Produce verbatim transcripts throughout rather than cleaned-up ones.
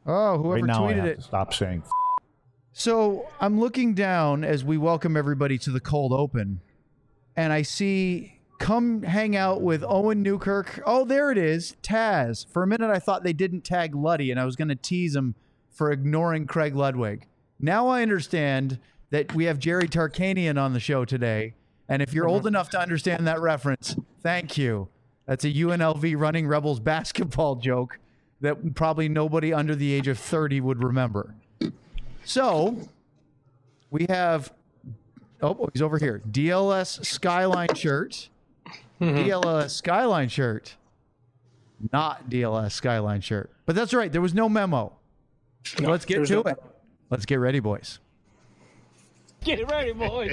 Oh, whoever right now tweeted I have it. To stop saying. F- So I'm looking down as we welcome everybody to the cold open, and I see come hang out with Owen Newkirk. Oh, there it is, Taz. For a minute, I thought they didn't tag Luddy, and I was going to tease him for ignoring Craig Ludwig. Now I understand that we have Jerry Tarkanian on the show today, and if you're old enough to understand that reference, thank you. That's a U N L V Running Rebels basketball joke that probably nobody under the age of thirty would remember. So we have, oh, he's over here. D L S Skyline shirt. D L S Skyline shirt. Not D L S Skyline shirt. But that's right. There was no memo. No, Let's get to no- it. Let's get ready, boys. Get ready, boys.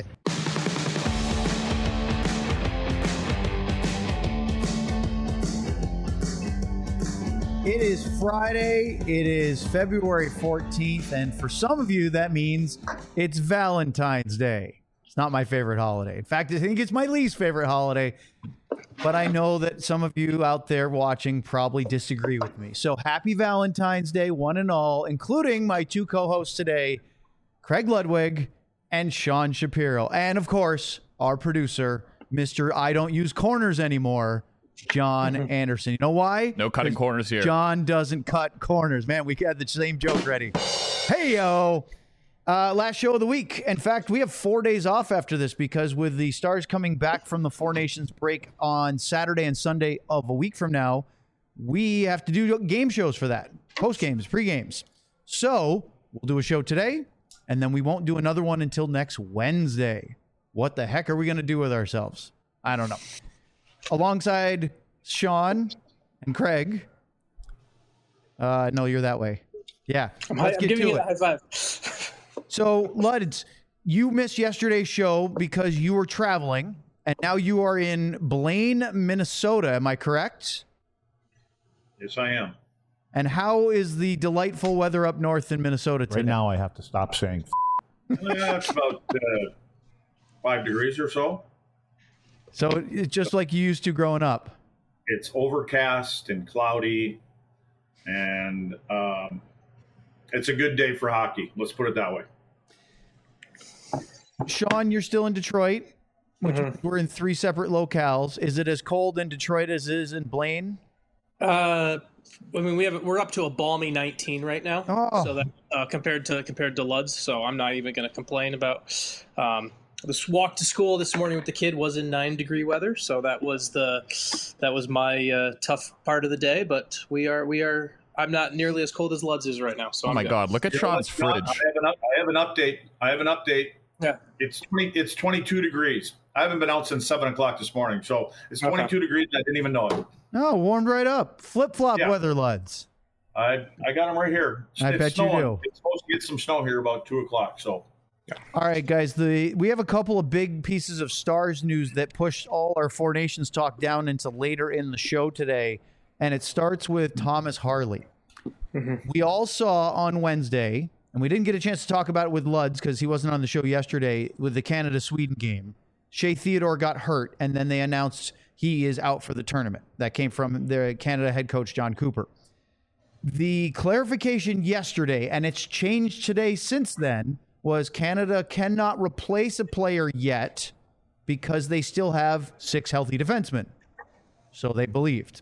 It is Friday. It is February fourteenth. And for some of you, that means it's Valentine's Day. It's not my favorite holiday. In fact, I think it's my least favorite holiday. But I know that some of you out there watching probably disagree with me. So happy Valentine's Day, one and all, including my two co-hosts today, Craig Ludwig and Sean Shapiro. And of course, our producer, Mister I don't use corners anymore, John Anderson. You know why? No cutting corners here. John doesn't cut corners. Man, we had the same joke ready. Hey, yo. Uh, last show of the week. In fact, we have four days off after this because with the Stars coming back from the Four Nations break on Saturday and Sunday of a week from now, we have to do game shows for that. Post games, pre games. So we'll do a show today, and then we won't do another one until next Wednesday. What the heck are we going to do with ourselves? I don't know. Alongside Sean and Craig. Uh, no, you're that way. Yeah. I'm, let's I'm get giving to you it. a high five. So, Luds, you missed yesterday's show because you were traveling, and now you are in Blaine, Minnesota. Am I correct? Yes, I am. And how is the delightful weather up north in Minnesota today? right now I have to stop saying. F- Yeah, it's about uh, five degrees or so. So it's just like you used to growing up. It's overcast and cloudy, and um, it's a good day for hockey. Let's put it that way. Sean, you're still in Detroit, which Mm-hmm. we're in three separate locales. Is it as cold in Detroit as it is in Blaine? Uh, I mean, we have we're up to a balmy nineteen right now. Oh. So that uh, compared to compared to Lud's, so I'm not even going to complain about. Um, this walk to school this morning with the kid was in nine degree weather, so that was the that was my uh, tough part of the day. But we are we are. I'm not nearly as cold as Lud's is right now. So Oh I'm my good. God! Look at You know Sean's what, John? fridge. I have, an up, I have an update. I have an update. Yeah. It's twenty. It's twenty-two degrees. I haven't been out since seven o'clock this morning, so it's Okay. twenty-two degrees. And I didn't even know it. Oh, warmed right up. Flip-flop Yeah. weather, Luds. I I got them right here. It's, I it's bet you snowing. do. It's supposed to get some snow here about two o'clock. So All right, guys. The we have a couple of big pieces of Stars news that pushed all our Four Nations talk down into later in the show today, and it starts with Thomas Harley. We all saw on Wednesday, and we didn't get a chance to talk about it with Luds because he wasn't on the show yesterday with the Canada-Sweden game. Shea Theodore got hurt, and then they announced he is out for the tournament. That came from their Canada head coach, John Cooper. The clarification yesterday, and it's changed today since then, was Canada cannot replace a player yet because they still have six healthy defensemen. So they believed.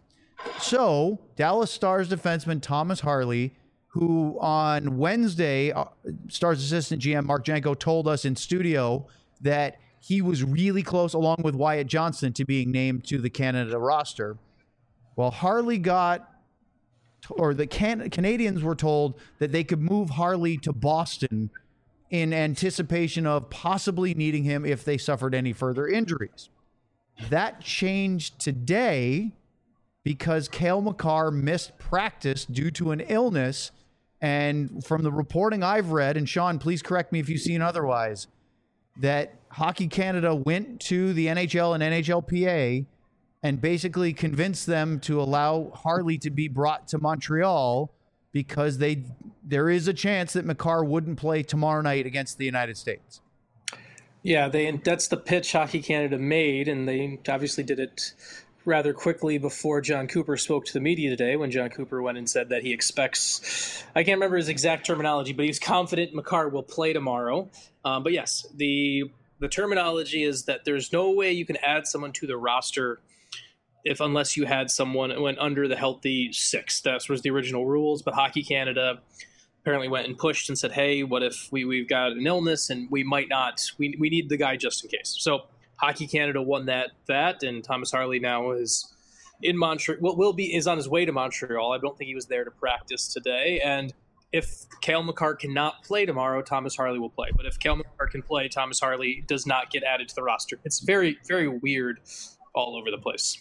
So Dallas Stars defenseman Thomas Harley, who on Wednesday, uh, Stars assistant G M Mark Janko told us in studio that he was really close, along with Wyatt Johnston, to being named to the Canada roster. Well, Harley got, or the Can- Canadians were told that they could move Harley to Boston in anticipation of possibly needing him if they suffered any further injuries. That changed today because Cale Makar missed practice due to an illness. And from the reporting I've read, and Sean, please correct me if you've seen otherwise, that Hockey Canada went to the N H L and N H L P A and basically convinced them to allow Harley to be brought to Montreal because they there is a chance that Makar wouldn't play tomorrow night against the United States. Yeah, they that's the pitch Hockey Canada made, and they obviously did it rather quickly before John Cooper spoke to the media today, when John Cooper went and said that he expects, I can't remember his exact terminology, but he's confident Makar will play tomorrow. Um, but yes, the the terminology is that there's no way you can add someone to the roster if unless you had someone who went under the healthy six. That was the original rules, but Hockey Canada apparently went and pushed and said, hey, what if we, we've got an illness and we might not, we, we need the guy just in case. So Hockey Canada won that, that, and Thomas Harley now is in Montreal, will, will be, is on his way to Montreal. I don't think he was there to practice today. And if Cale Makar cannot play tomorrow, Thomas Harley will play. But if Cale Makar can play, Thomas Harley does not get added to the roster. It's very, very weird all over the place.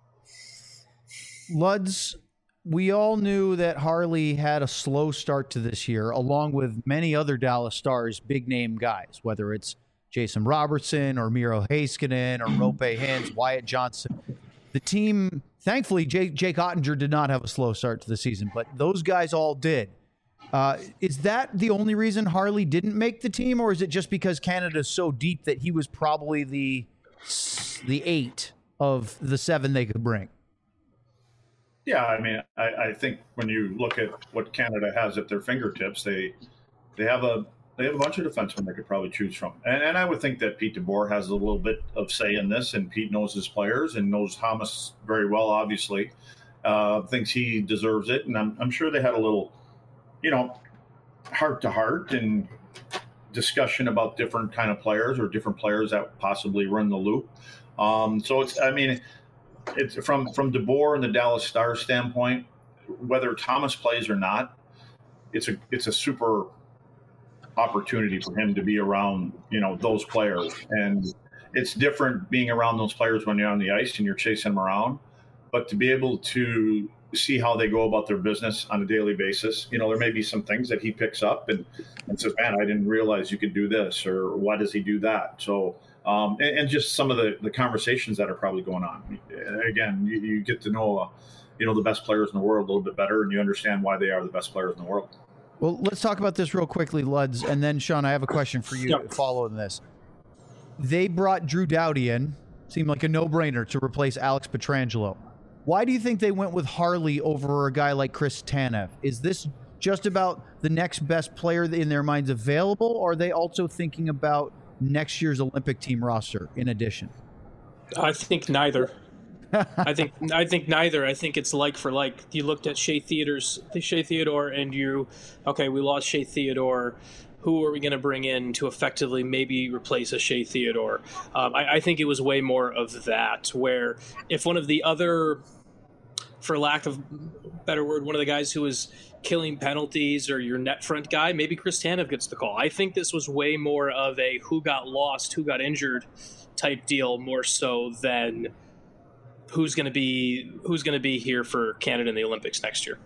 Luds, we all knew that Harley had a slow start to this year, along with many other Dallas Stars, big-name guys, whether it's Jason Robertson or Miro Heiskanen or Rope Hintz, Wyatt Johnson. The team, thankfully, Jake, Jake Ottinger did not have a slow start to the season, but those guys all did. Uh, is that the only reason Harley didn't make the team, or is it just because Canada's so deep that he was probably the the eight of the seven they could bring? Yeah, I mean, I, I think when you look at what Canada has at their fingertips, they they have a they have a bunch of defensemen they could probably choose from, and, and I would think that Pete DeBoer has a little bit of say in this, and Pete knows his players and knows Thomas very well. Obviously, uh, thinks he deserves it, and I'm I'm sure they had a little, you know, heart to heart and discussion about different kind of players or different players that possibly run the loop. Um, so it's, I mean, it's from, from DeBoer and the Dallas Stars standpoint, whether Thomas plays or not, it's a, it's a super opportunity for him to be around, you know, those players. And it's different being around those players when you're on the ice and you're chasing them around, but to be able to see how they go about their business on a daily basis. You know, there may be some things that he picks up and, and says, man, I didn't realize you could do this, or why does he do that? So, um, and, and just some of the, the conversations that are probably going on. Again, you, you get to know, uh, you know, the best players in the world a little bit better, and you understand why they are the best players in the world. Well, let's talk about this real quickly, Luds, and then, Sean, I have a question for you Yep. following this. They brought Drew Doughty in. Seemed like a no-brainer to replace Alex Pietrangelo. Why do you think they went with Harley over a guy like Chris Tanev? Is this just about the next best player in their minds available, or are they also thinking about next year's Olympic team roster in addition? I think neither. I think I think neither. I think it's like for like. You looked at Shea Theodore's Shea Theodore, and you, okay, we lost Shea Theodore. Who are we going to bring in to effectively maybe replace a Shea Theodore? Um, I, I think it was way more of that, where if one of the other, for lack of a better word, one of the guys who was killing penalties or your net front guy, maybe Chris Tanev gets the call. I think this was way more of a who got lost, who got injured type deal, more so than who's going to be who's going to be here for Canada in the Olympics next year.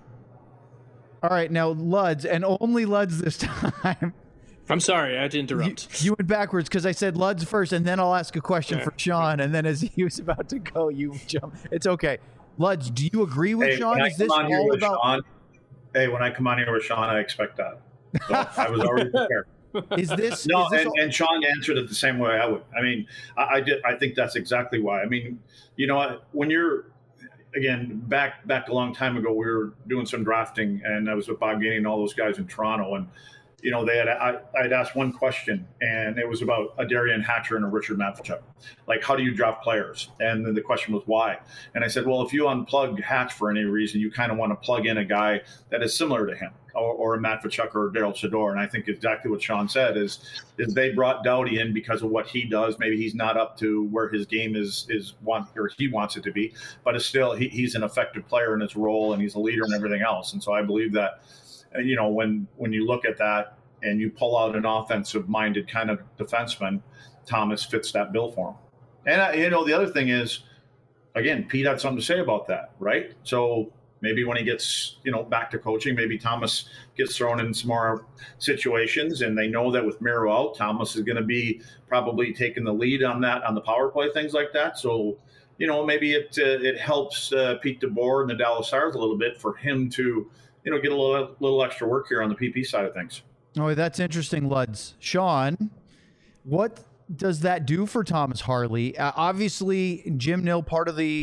All right, now Luds, and only Luds this time. I'm sorry, I had to interrupt. You, you went backwards because I said Luds first, and then I'll ask a question Yeah. for Sean, and then as he was about to go, you jump. It's okay. Luds, do you agree with Hey, Sean? when I Is this come on here all with about? Sean, hey, when I come on here with Sean, I expect that. So I was already prepared. Is this No, is this and, all- and Sean answered it the same way I would. I mean, I, I did. I think that's exactly why. I mean, you know, when you're again back back a long time ago, we were doing some drafting, and I was with Bob Gainey and all those guys in Toronto, and you know, they had I I'd asked one question, and it was about a Darian Hatcher and a Richard Matvichuk. Like, how do you draft players? And then the question was why. And I said, well, if you unplug Hatch for any reason, you kind of want to plug in a guy that is similar to him, or, or a Matvichuk or a Daryl Sador. And I think exactly what Sean said is is they brought Doughty in because of what he does. Maybe he's not up to where his game is is want or he wants it to be, but it's still he, he's an effective player in his role, and he's a leader and everything else. And so I believe that. You know, when when you look at that and you pull out an offensive-minded kind of defenseman, Thomas fits that bill for him. And, uh, you know, the other thing is, again, Pete had something to say about that, right? So maybe when he gets, you know, back to coaching, maybe Thomas gets thrown in some more situations, and they know that with Miro out, Thomas is going to be probably taking the lead on that, on the power play, things like that. So, you know, maybe it uh, it helps uh, Pete DeBoer and the Dallas Stars a little bit for him to, you know, get a little little extra work here on the P P side of things. Oh, that's interesting, Luds. Sean, what does that do for Thomas Harley? Uh, obviously, Jim Nill, part of the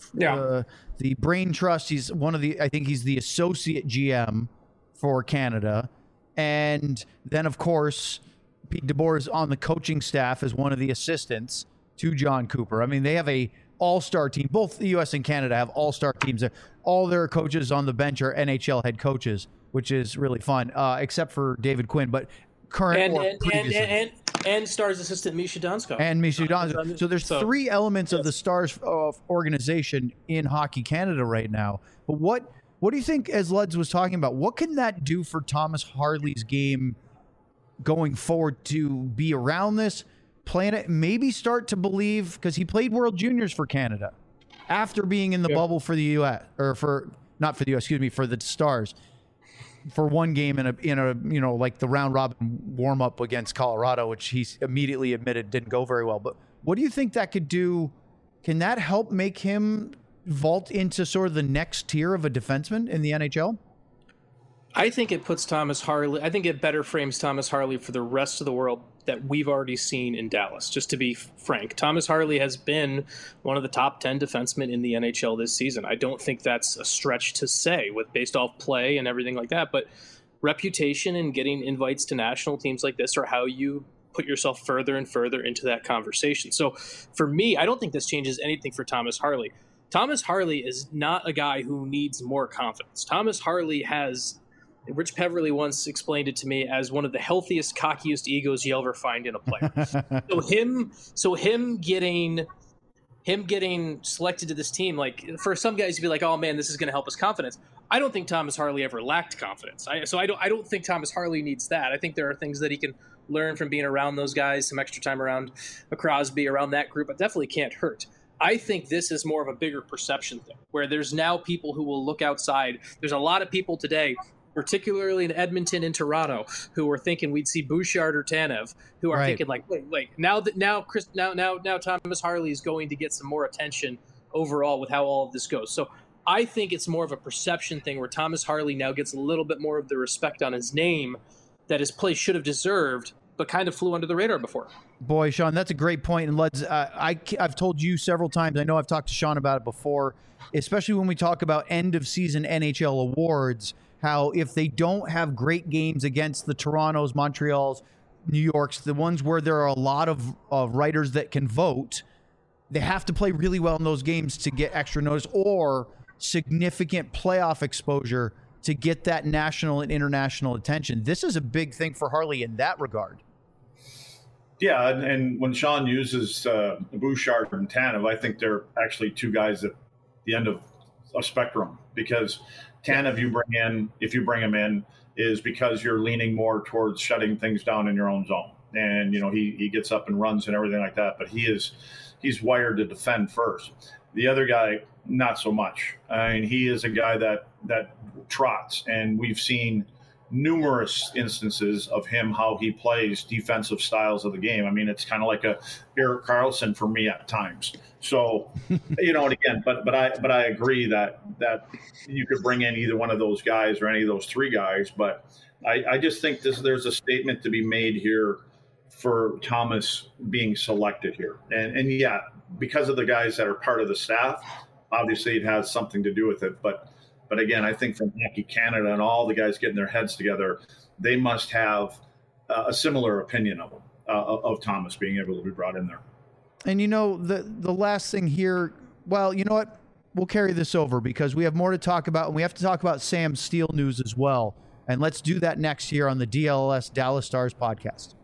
Yeah. uh, the brain trust. He's one of the, I think he's the associate G M for Canada. And then, of course, Pete DeBoer is on the coaching staff as one of the assistants to John Cooper. I mean, they have a all-star team. Both the U S and Canada have all-star teams. All their coaches on the bench are N H L head coaches, which is really fun, uh, except for David Quinn. But current and or and, previous and, and, and Stars assistant Misha Donskov. and Misha Donskov. So there's So, three elements of yes. the Stars uh, organization in Hockey Canada right now. But what what do you think, as Luds was talking about, what can that do for Thomas Harley's game going forward to be around this, plan it, maybe start to believe, because he played World Juniors for Canada after being in the Yeah. bubble for the U S, or for, not for the U S, excuse me, for the Stars, for one game in a, in a, you know, like the round robin warm up against Colorado, which he immediately admitted didn't go very well. But what do you think that could do? Can that help make him vault into sort of the next tier of a defenseman in the N H L? I think it puts Thomas Harley, I think it better frames Thomas Harley for the rest of the world that we've already seen in Dallas, just to be frank. Thomas Harley has been one of the top ten defensemen in the N H L this season. I don't think that's a stretch to say with based off play and everything like that, but reputation and getting invites to national teams like this are how you put yourself further and further into that conversation. So for me, I don't think this changes anything for Thomas Harley. Thomas Harley is not a guy who needs more confidence. Thomas Harley has... Rich Peverly once explained it to me as one of the healthiest, cockiest egos you'll ever find in a player. so him, so him getting, him getting selected to this team, like for some guys, you'd be like, "Oh man, this is going to help his confidence." I don't think Thomas Harley ever lacked confidence. I, so I don't, I don't think Thomas Harley needs that. I think there are things that he can learn from being around those guys, some extra time around a Crosby, around that group, but definitely can't hurt. I think this is more of a bigger perception thing, where there's now people who will look outside. There's a lot of people today, particularly in Edmonton and Toronto, who were thinking we'd see Bouchard or Tanev, who are Right. thinking like, wait, wait, now that now Chris, now now now Thomas Harley is going to get some more attention overall with how all of this goes. So I think it's more of a perception thing where Thomas Harley now gets a little bit more of the respect on his name that his play should have deserved, but kind of flew under the radar before. Boy, Sean, that's a great point. And let's, uh, I, I've told you several times, I know I've talked to Sean about it before, especially when we talk about end of season N H L awards, how if they don't have great games against the Torontos, Montreals, New Yorks, the ones where there are a lot of uh, writers that can vote, they have to play really well in those games to get extra notice or significant playoff exposure to get that national and international attention. This is a big thing for Harley in that regard. Yeah, and, and when Sean uses uh, Bouchard and Tanev, I think they're actually two guys at the end of a spectrum, because Tanev you bring in, if you bring him in, is because you're leaning more towards shutting things down in your own zone. And, you know, he, he gets up and runs and everything like that, but he is he's wired to defend first. The other guy, not so much. I mean, he is a guy that that trots, and we've seen numerous instances of him, how he plays defensive styles of the game. I mean, it's kind of like a Erik Karlsson for me at times. So, you know, and again, but but I but I agree that that you could bring in either one of those guys or any of those three guys. But I, I just think this there's a statement to be made here for Thomas being selected here. And and yeah, because of the guys that are part of the staff, obviously it has something to do with it. But But again, I think from Hockey Canada and all the guys getting their heads together, they must have uh, a similar opinion of him, uh, of Thomas being able to be brought in there. And you know, the the last thing here, well, you know what? We'll carry this over because we have more to talk about, and we have to talk about Sam Steele news as well. And let's do that next year on the D L S Dallas Stars podcast.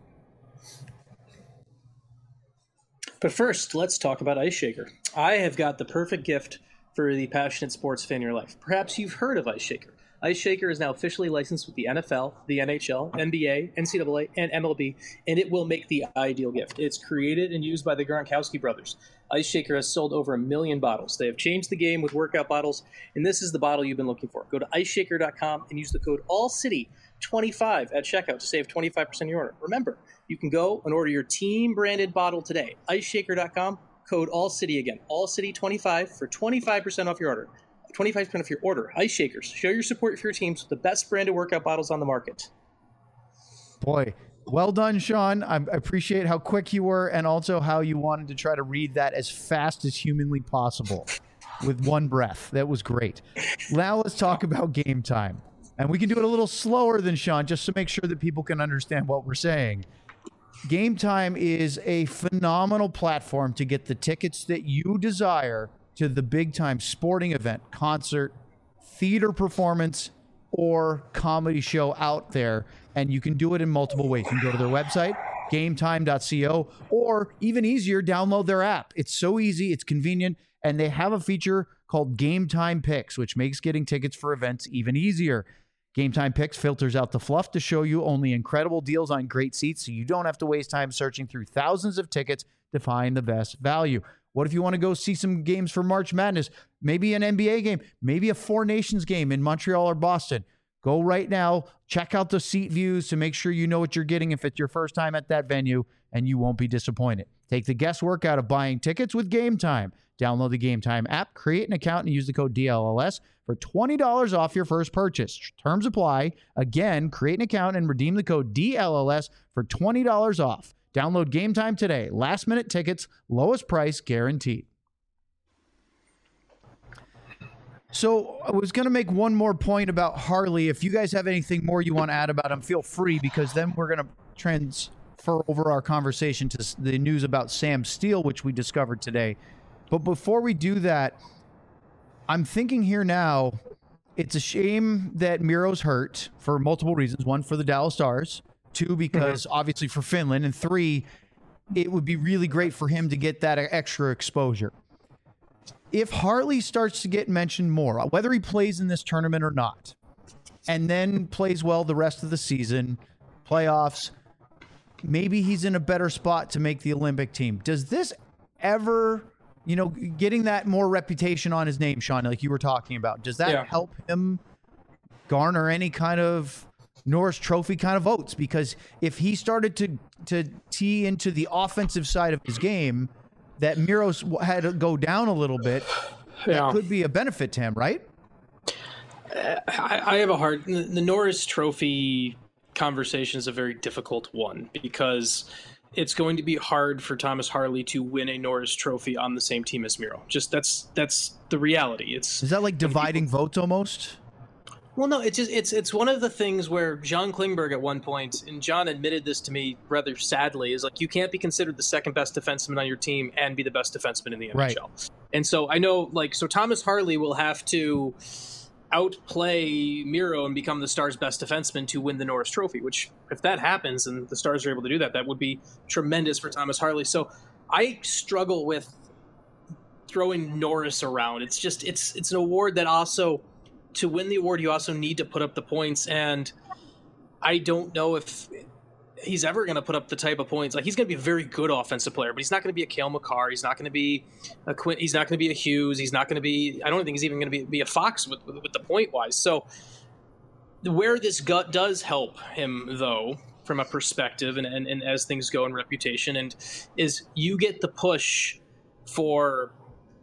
But first, let's talk about Ice Shaker. I have got the perfect gift for the passionate sports fan in your life. Perhaps you've heard of Ice Shaker. Ice Shaker is now officially licensed with the N F L, the N H L, N B A, N C double A, and M L B, and it will make the ideal gift. It's created and used by the Gronkowski brothers. Ice Shaker has sold over a million bottles. They have changed the game with workout bottles, and this is the bottle you've been looking for. Go to ice shaker dot com and use the code all city twenty-five at checkout to save twenty-five percent of your order. Remember, you can go and order your team-branded bottle today. ice shaker dot com, code all city again, all city twenty-five for twenty-five percent off your order. twenty-five percent off your order. Ice Shakers. Show your support for your teams with the best branded workout bottles on the market. Boy, well done, Sean. I appreciate how quick you were and also how you wanted to try to read that as fast as humanly possible. with one breath. That was great. Now let's talk about Game Time. And we can do it a little slower than Sean just to make sure that people can understand what we're saying. Game Time is a phenomenal platform to get the tickets that you desire to the big time sporting event, concert, theater performance, or comedy show out there. And you can do it in multiple ways. You can go to their website, game time dot co, or even easier, download their app. It's so easy, it's convenient, and they have a feature called Game Time Picks, which makes getting tickets for events even easier. Game Time Picks filters out the fluff to show you only incredible deals on great seats, so you don't have to waste time searching through thousands of tickets to find the best value. What if you want to go see some games for March Madness? Maybe an N B A game, maybe a Four Nations game in Montreal or Boston. Go right now, check out the seat views to make sure you know what you're getting if it's your first time at that venue, and you won't be disappointed. Take the guesswork out of buying tickets with Game Time. Download the Game Time app, create an account, and use the code D L L S for twenty dollars off your first purchase. Terms apply. Again, create an account and redeem the code D L L S for twenty dollars off. Download Game Time today. Last minute tickets, lowest price guaranteed. So I was going to make one more point about Harley. If you guys have anything more you want to add about him, feel free, because then we're going to transfer over our conversation to the news about Sam Steele, which we discovered today. But before we do that, I'm thinking here now, it's a shame that Miro's hurt for multiple reasons. One, for the Dallas Stars. Two, because mm-hmm. obviously for Finland. And three, it would be really great for him to get that extra exposure. If Harley starts to get mentioned more, whether he plays in this tournament or not, and then plays well the rest of the season, playoffs, maybe he's in a better spot to make the Olympic team. Does this ever... You know, getting that more reputation on his name, Sean, like you were talking about, does that yeah. help him garner any kind of Norris Trophy kind of votes? Because if he started to to tee into the offensive side of his game, that Miro's had to go down a little bit, yeah. that could be a benefit to him, right? I, I have a hard... The Norris Trophy conversation is a very difficult one, because... it's going to be hard for Thomas Harley to win a Norris Trophy on the same team as Miro. Just that's that's the reality. It's is that like dividing people, votes almost? Well, no, it's just it's it's one of the things where John Klingberg at one point, and John admitted this to me rather sadly, is like you can't be considered the second best defenseman on your team and be the best defenseman in the N H L. Right. And so I know, like, so Thomas Harley will have to outplay Miro and become the Stars' best defenseman to win the Norris Trophy, which if that happens and the Stars are able to do that, that would be tremendous for Thomas Harley. So I struggle with throwing Norris around. It's just, it's, it's an award that also, to win the award, you also need to put up the points. And I don't know if he's ever going to put up the type of points. Like, he's going to be a very good offensive player, but he's not going to be a Cale Makar. He's not going to be a Quint. He's not going to be a Hughes. He's not going to be, I don't think he's even going to be, be a Fox with, with, with the point wise. So where this gut does help him, though, from a perspective and, and, and as things go in reputation, and is you get the push for,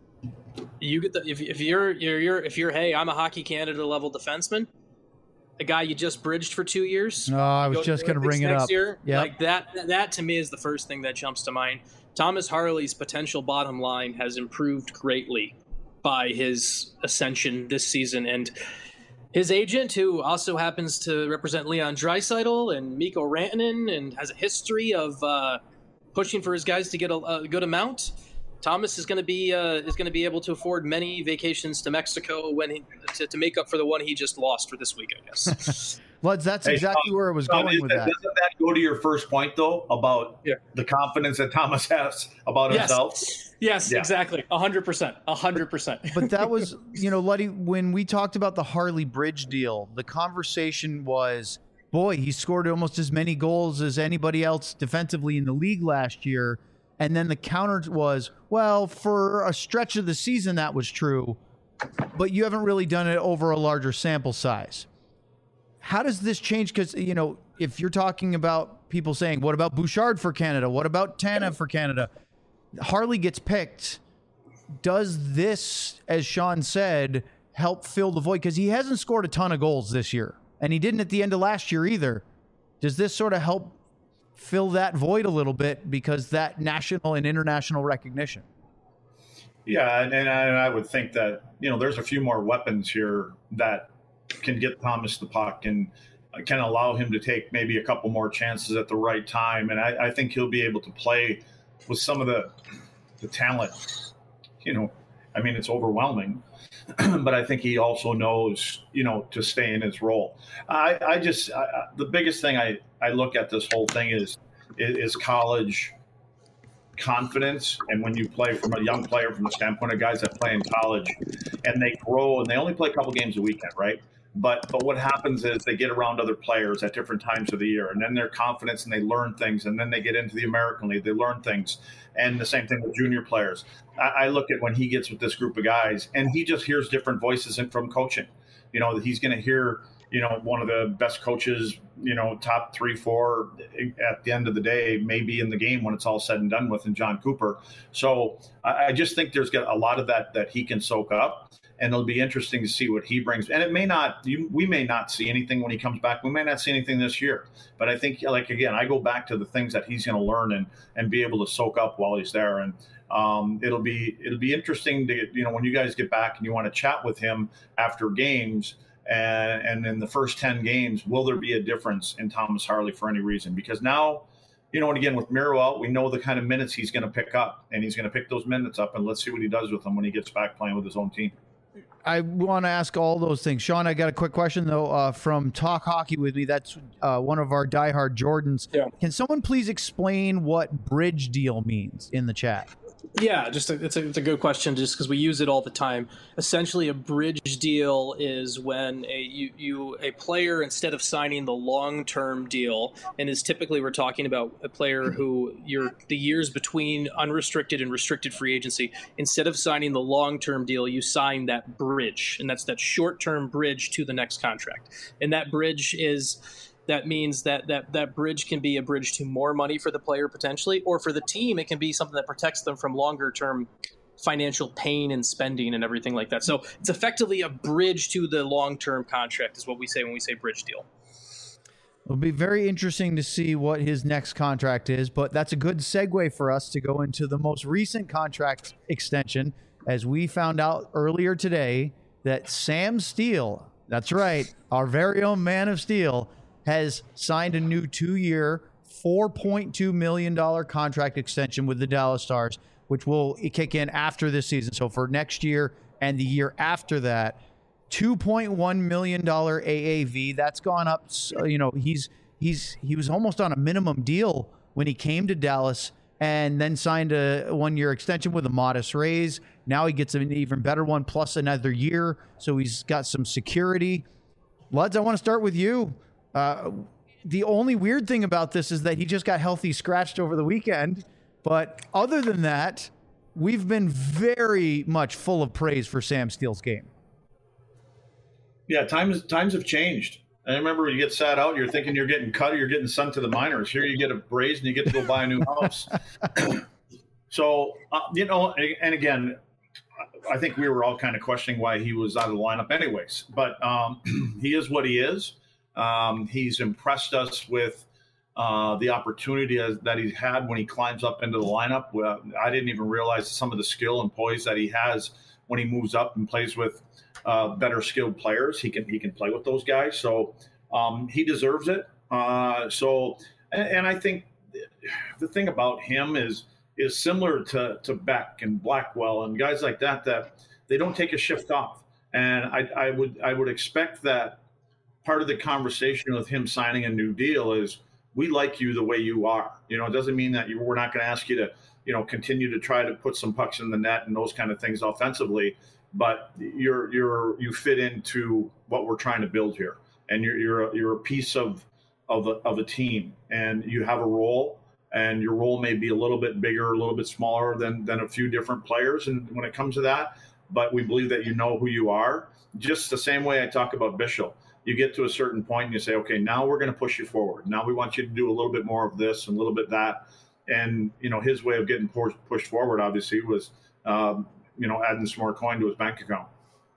you get the, if, if you're, you're, you're, if you're, hey, I'm a Hockey Canada level defenseman, a guy you just bridged for two years. Oh, I was just going to bring it up. Year, yep. Like that, that to me is the first thing that jumps to mind. Thomas Harley's potential bottom line has improved greatly by his ascension this season. And his agent, who also happens to represent Leon Draisaitl and Mikko Rantanen and has a history of uh, pushing for his guys to get a, a good amount, Thomas is going to be uh, is going to be able to afford many vacations to Mexico when he, to, to make up for the one he just lost for this week, I guess. Well, that's hey, exactly um, where it was um, going with that, that. Doesn't that go to your first point, though, about yeah. the confidence that Thomas has about yes. himself? Yes, yeah. exactly. A hundred percent. A hundred percent. But that was, you know, Luddy, when we talked about the Harley Bridge deal, the conversation was, boy, he scored almost as many goals as anybody else defensively in the league last year. And then the counter was, well, for a stretch of the season, that was true, but you haven't really done it over a larger sample size. How does this change? Because, you know, if you're talking about people saying, what about Bouchard for Canada? What about Tanev for Canada? Harley gets picked. Does this, as Sean said, help fill the void? Because he hasn't scored a ton of goals this year, and he didn't at the end of last year either. Does this sort of help fill that void a little bit because that national and international recognition? Yeah, and, and, I, and I would think that, you know, there's a few more weapons here that can get Thomas the puck and can allow him to take maybe a couple more chances at the right time. And I, I think he'll be able to play with some of the the talent. You know, I mean, it's overwhelming, but I think he also knows, you know, to stay in his role. I, I just, I, the biggest thing I, I look at this whole thing is, is college confidence. And when you play from a young player, from the standpoint of guys that play in college and they grow and they only play a couple games a weekend, right? But but what happens is they get around other players at different times of the year, and then their confidence and they learn things, and then they get into the American League, they learn things. And the same thing with junior players. I, I look at when he gets with this group of guys, and he just hears different voices from coaching. You know, he's going to hear, you know, one of the best coaches, you know, top three, four at the end of the day, maybe in the game when it's all said and done with, in John Cooper. So I, I just think there's got a lot of that that he can soak up. And it'll be interesting to see what he brings. And it may not, you, we may not see anything when he comes back. We may not see anything this year. But I think, like, again, I go back to the things that he's going to learn and and be able to soak up while he's there. And um, it'll be it'll be interesting to get, you know, when you guys get back and you want to chat with him after games. And, and in the first ten games, will there be a difference in Thomas Harley for any reason? Because now, you know, and again, with Miro out, we know the kind of minutes he's going to pick up. And he's going to pick those minutes up. And let's see what he does with them when he gets back playing with his own team. I want to ask all those things. Sean, I got a quick question, though, uh, from Talk Hockey with me. That's uh, one of our diehard Jordans. Yeah. Can someone please explain what bridge deal means in the chat? Yeah, just a, it's a it's a good question, just because we use it all the time. Essentially, a bridge deal is when a you, you a player, instead of signing the long term deal, and is typically we're talking about a player who you're the years between unrestricted and restricted free agency. Instead of signing the long term deal, you sign that bridge, and that's that short term bridge to the next contract. And that bridge is. That means that, that that bridge can be a bridge to more money for the player potentially, or for the team, it can be something that protects them from longer term financial pain and spending and everything like that. So it's effectively a bridge to the long term contract is what we say when we say bridge deal. It'll be very interesting to see what his next contract is, but that's a good segue for us to go into the most recent contract extension, as we found out earlier today that Sam Steele, that's right, our very own Man of Steel, has signed a new two-year, four point two million dollars contract extension with the Dallas Stars, which will kick in after this season. So for next year and the year after that, two point one million dollars A A V. That's gone up. You know, he's he's he was almost on a minimum deal when he came to Dallas, and then signed a one-year extension with a modest raise. Now he gets an even better one, plus another year. So he's got some security. Luds, I want to start with you. Uh, the only weird thing about this is that he just got healthy scratched over the weekend. But other than that, we've been very much full of praise for Sam Steele's game. Yeah, times times have changed. I remember when you get sat out, you're thinking you're getting cut or you're getting sent to the minors. Here you get a raise and you get to go buy a new house. So, uh, you know, and again, I think we were all kind of questioning why he was out of the lineup anyways. But um, he is what he is. Um, he's impressed us with uh, the opportunity as, that he's had when he climbs up into the lineup. Well, I didn't even realize some of the skill and poise that he has when he moves up and plays with uh, better skilled players. He can he can play with those guys. So um, he deserves it. Uh, so and, and I think the thing about him is is similar to, to Beck and Blackwell and guys like that, that they don't take a shift off. And I, I would I would expect that part of the conversation with him signing a new deal is we like you the way you are. You know, it doesn't mean that you, we're not going to ask you to, you know, continue to try to put some pucks in the net and those kind of things offensively, but you're you're you fit into what we're trying to build here, and you're you're a, you're a piece of of a, of a team, and you have a role, and your role may be a little bit bigger, a little bit smaller than than a few different players, and when it comes to that, but we believe that you know who you are. Just the same way I talk about Bishop. You get to a certain point and you say, okay, now we're going to push you forward. Now we want you to do a little bit more of this and a little bit that. And, you know, his way of getting pushed forward, obviously, was, um, you know, adding some more coin to his bank account.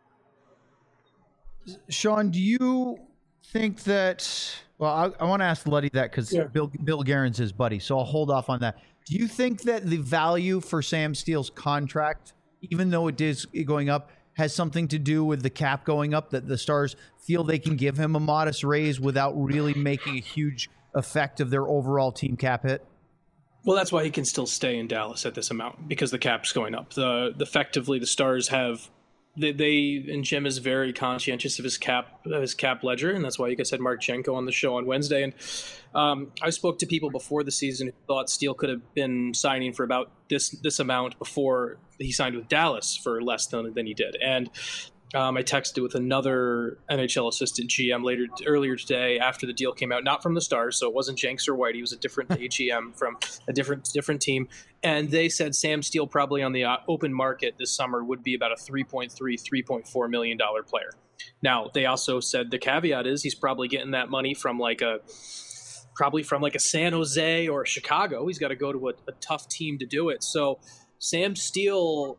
Sean, do you think that, well, I, I want to ask Luddy that because yeah. Bill, Bill Guerin's his buddy, so I'll hold off on that. Do you think that the value for Sam Steele's contract even though it is going up, has something to do with the cap going up, that the Stars feel they can give him a modest raise without really making a huge effect of their overall team cap hit? Well, that's why he can still stay in Dallas at this amount, because the cap's going up. The, the effectively the Stars have they, they and Jim is very conscientious of his cap of his cap ledger, and that's why you guys had Mark Jenko on the show on Wednesday. And um, I spoke to people before the season who thought Steele could have been signing for about this this amount before he signed with Dallas for less than than he did. And Um, I texted with another N H L assistant G M later earlier today after the deal came out, not from the Stars, so it wasn't Jenks or White. He was a different A G M from a different different team, and they said Sam Steele probably on the uh, open market this summer would be about a three point three, three point four million dollar player. Now they also said the caveat is he's probably getting that money from like a probably from like a San Jose or a Chicago. He's got to go to a, a tough team to do it. So Sam Steele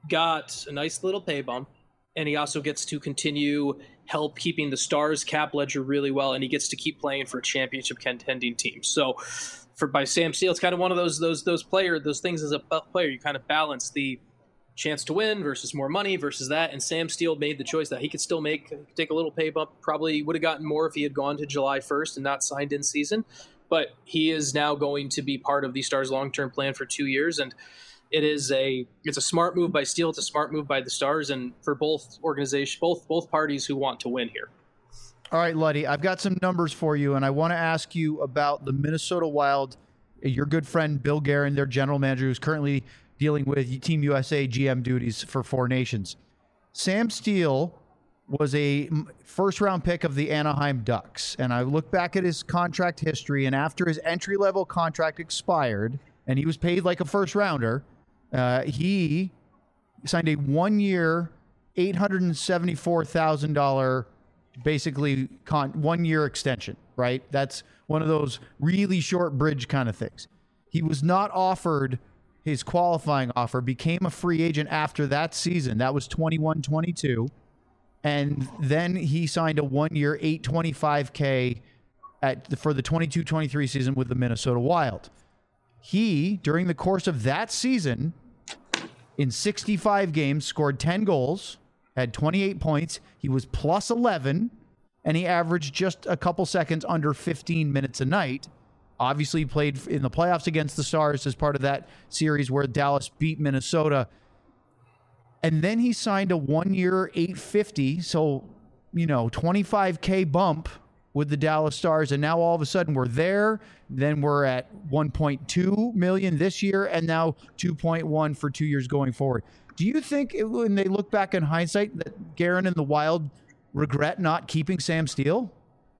got a nice little pay bump. And he also gets to continue help keeping the Stars cap ledger really well, and he gets to keep playing for a championship contending team. So, for by Sam Steele, it's kind of one of those those those player those things as a player. You kind of balance the chance to win versus more money versus that. And Sam Steele made the choice that he could still make take a little pay bump. Probably would have gotten more if he had gone to July first and not signed in season. But he is now going to be part of the Stars' long term plan for two years, and It is a it's a smart move by Steele. It's a smart move by the Stars, and for both organizations, both both parties who want to win here. All right, Luddy, I've got some numbers for you, and I want to ask you about the Minnesota Wild. Your good friend Bill Guerin, their general manager, who's currently dealing with Team U S A G M duties for Four Nations. Sam Steele was a first-round pick of the Anaheim Ducks, and I look back at his contract history, and after his entry-level contract expired, and he was paid like a first-rounder, Uh, he signed a one-year, eight hundred seventy-four thousand dollars, basically con- one-year extension, right? That's one of those really short bridge kind of things. He was not offered his qualifying offer, became a free agent after that season. That was twenty-one twenty-two. And then he signed a one-year, eight hundred twenty-five thousand dollars at for the twenty-two twenty-three season with the Minnesota Wild. He, during the course of that season, in sixty-five games, scored ten goals, had twenty-eight points. He was plus eleven, and he averaged just a couple seconds under fifteen minutes a night. Obviously, he played in the playoffs against the Stars as part of that series where Dallas beat Minnesota. And then he signed a one-year eight hundred fifty, so, you know, twenty-five K bump with the Dallas Stars, and now all of a sudden we're there. Then we're at one point two million this year, and now two point one for two years going forward. Do you think it, when they look back in hindsight that Guerin and the Wild regret not keeping Sam Steele?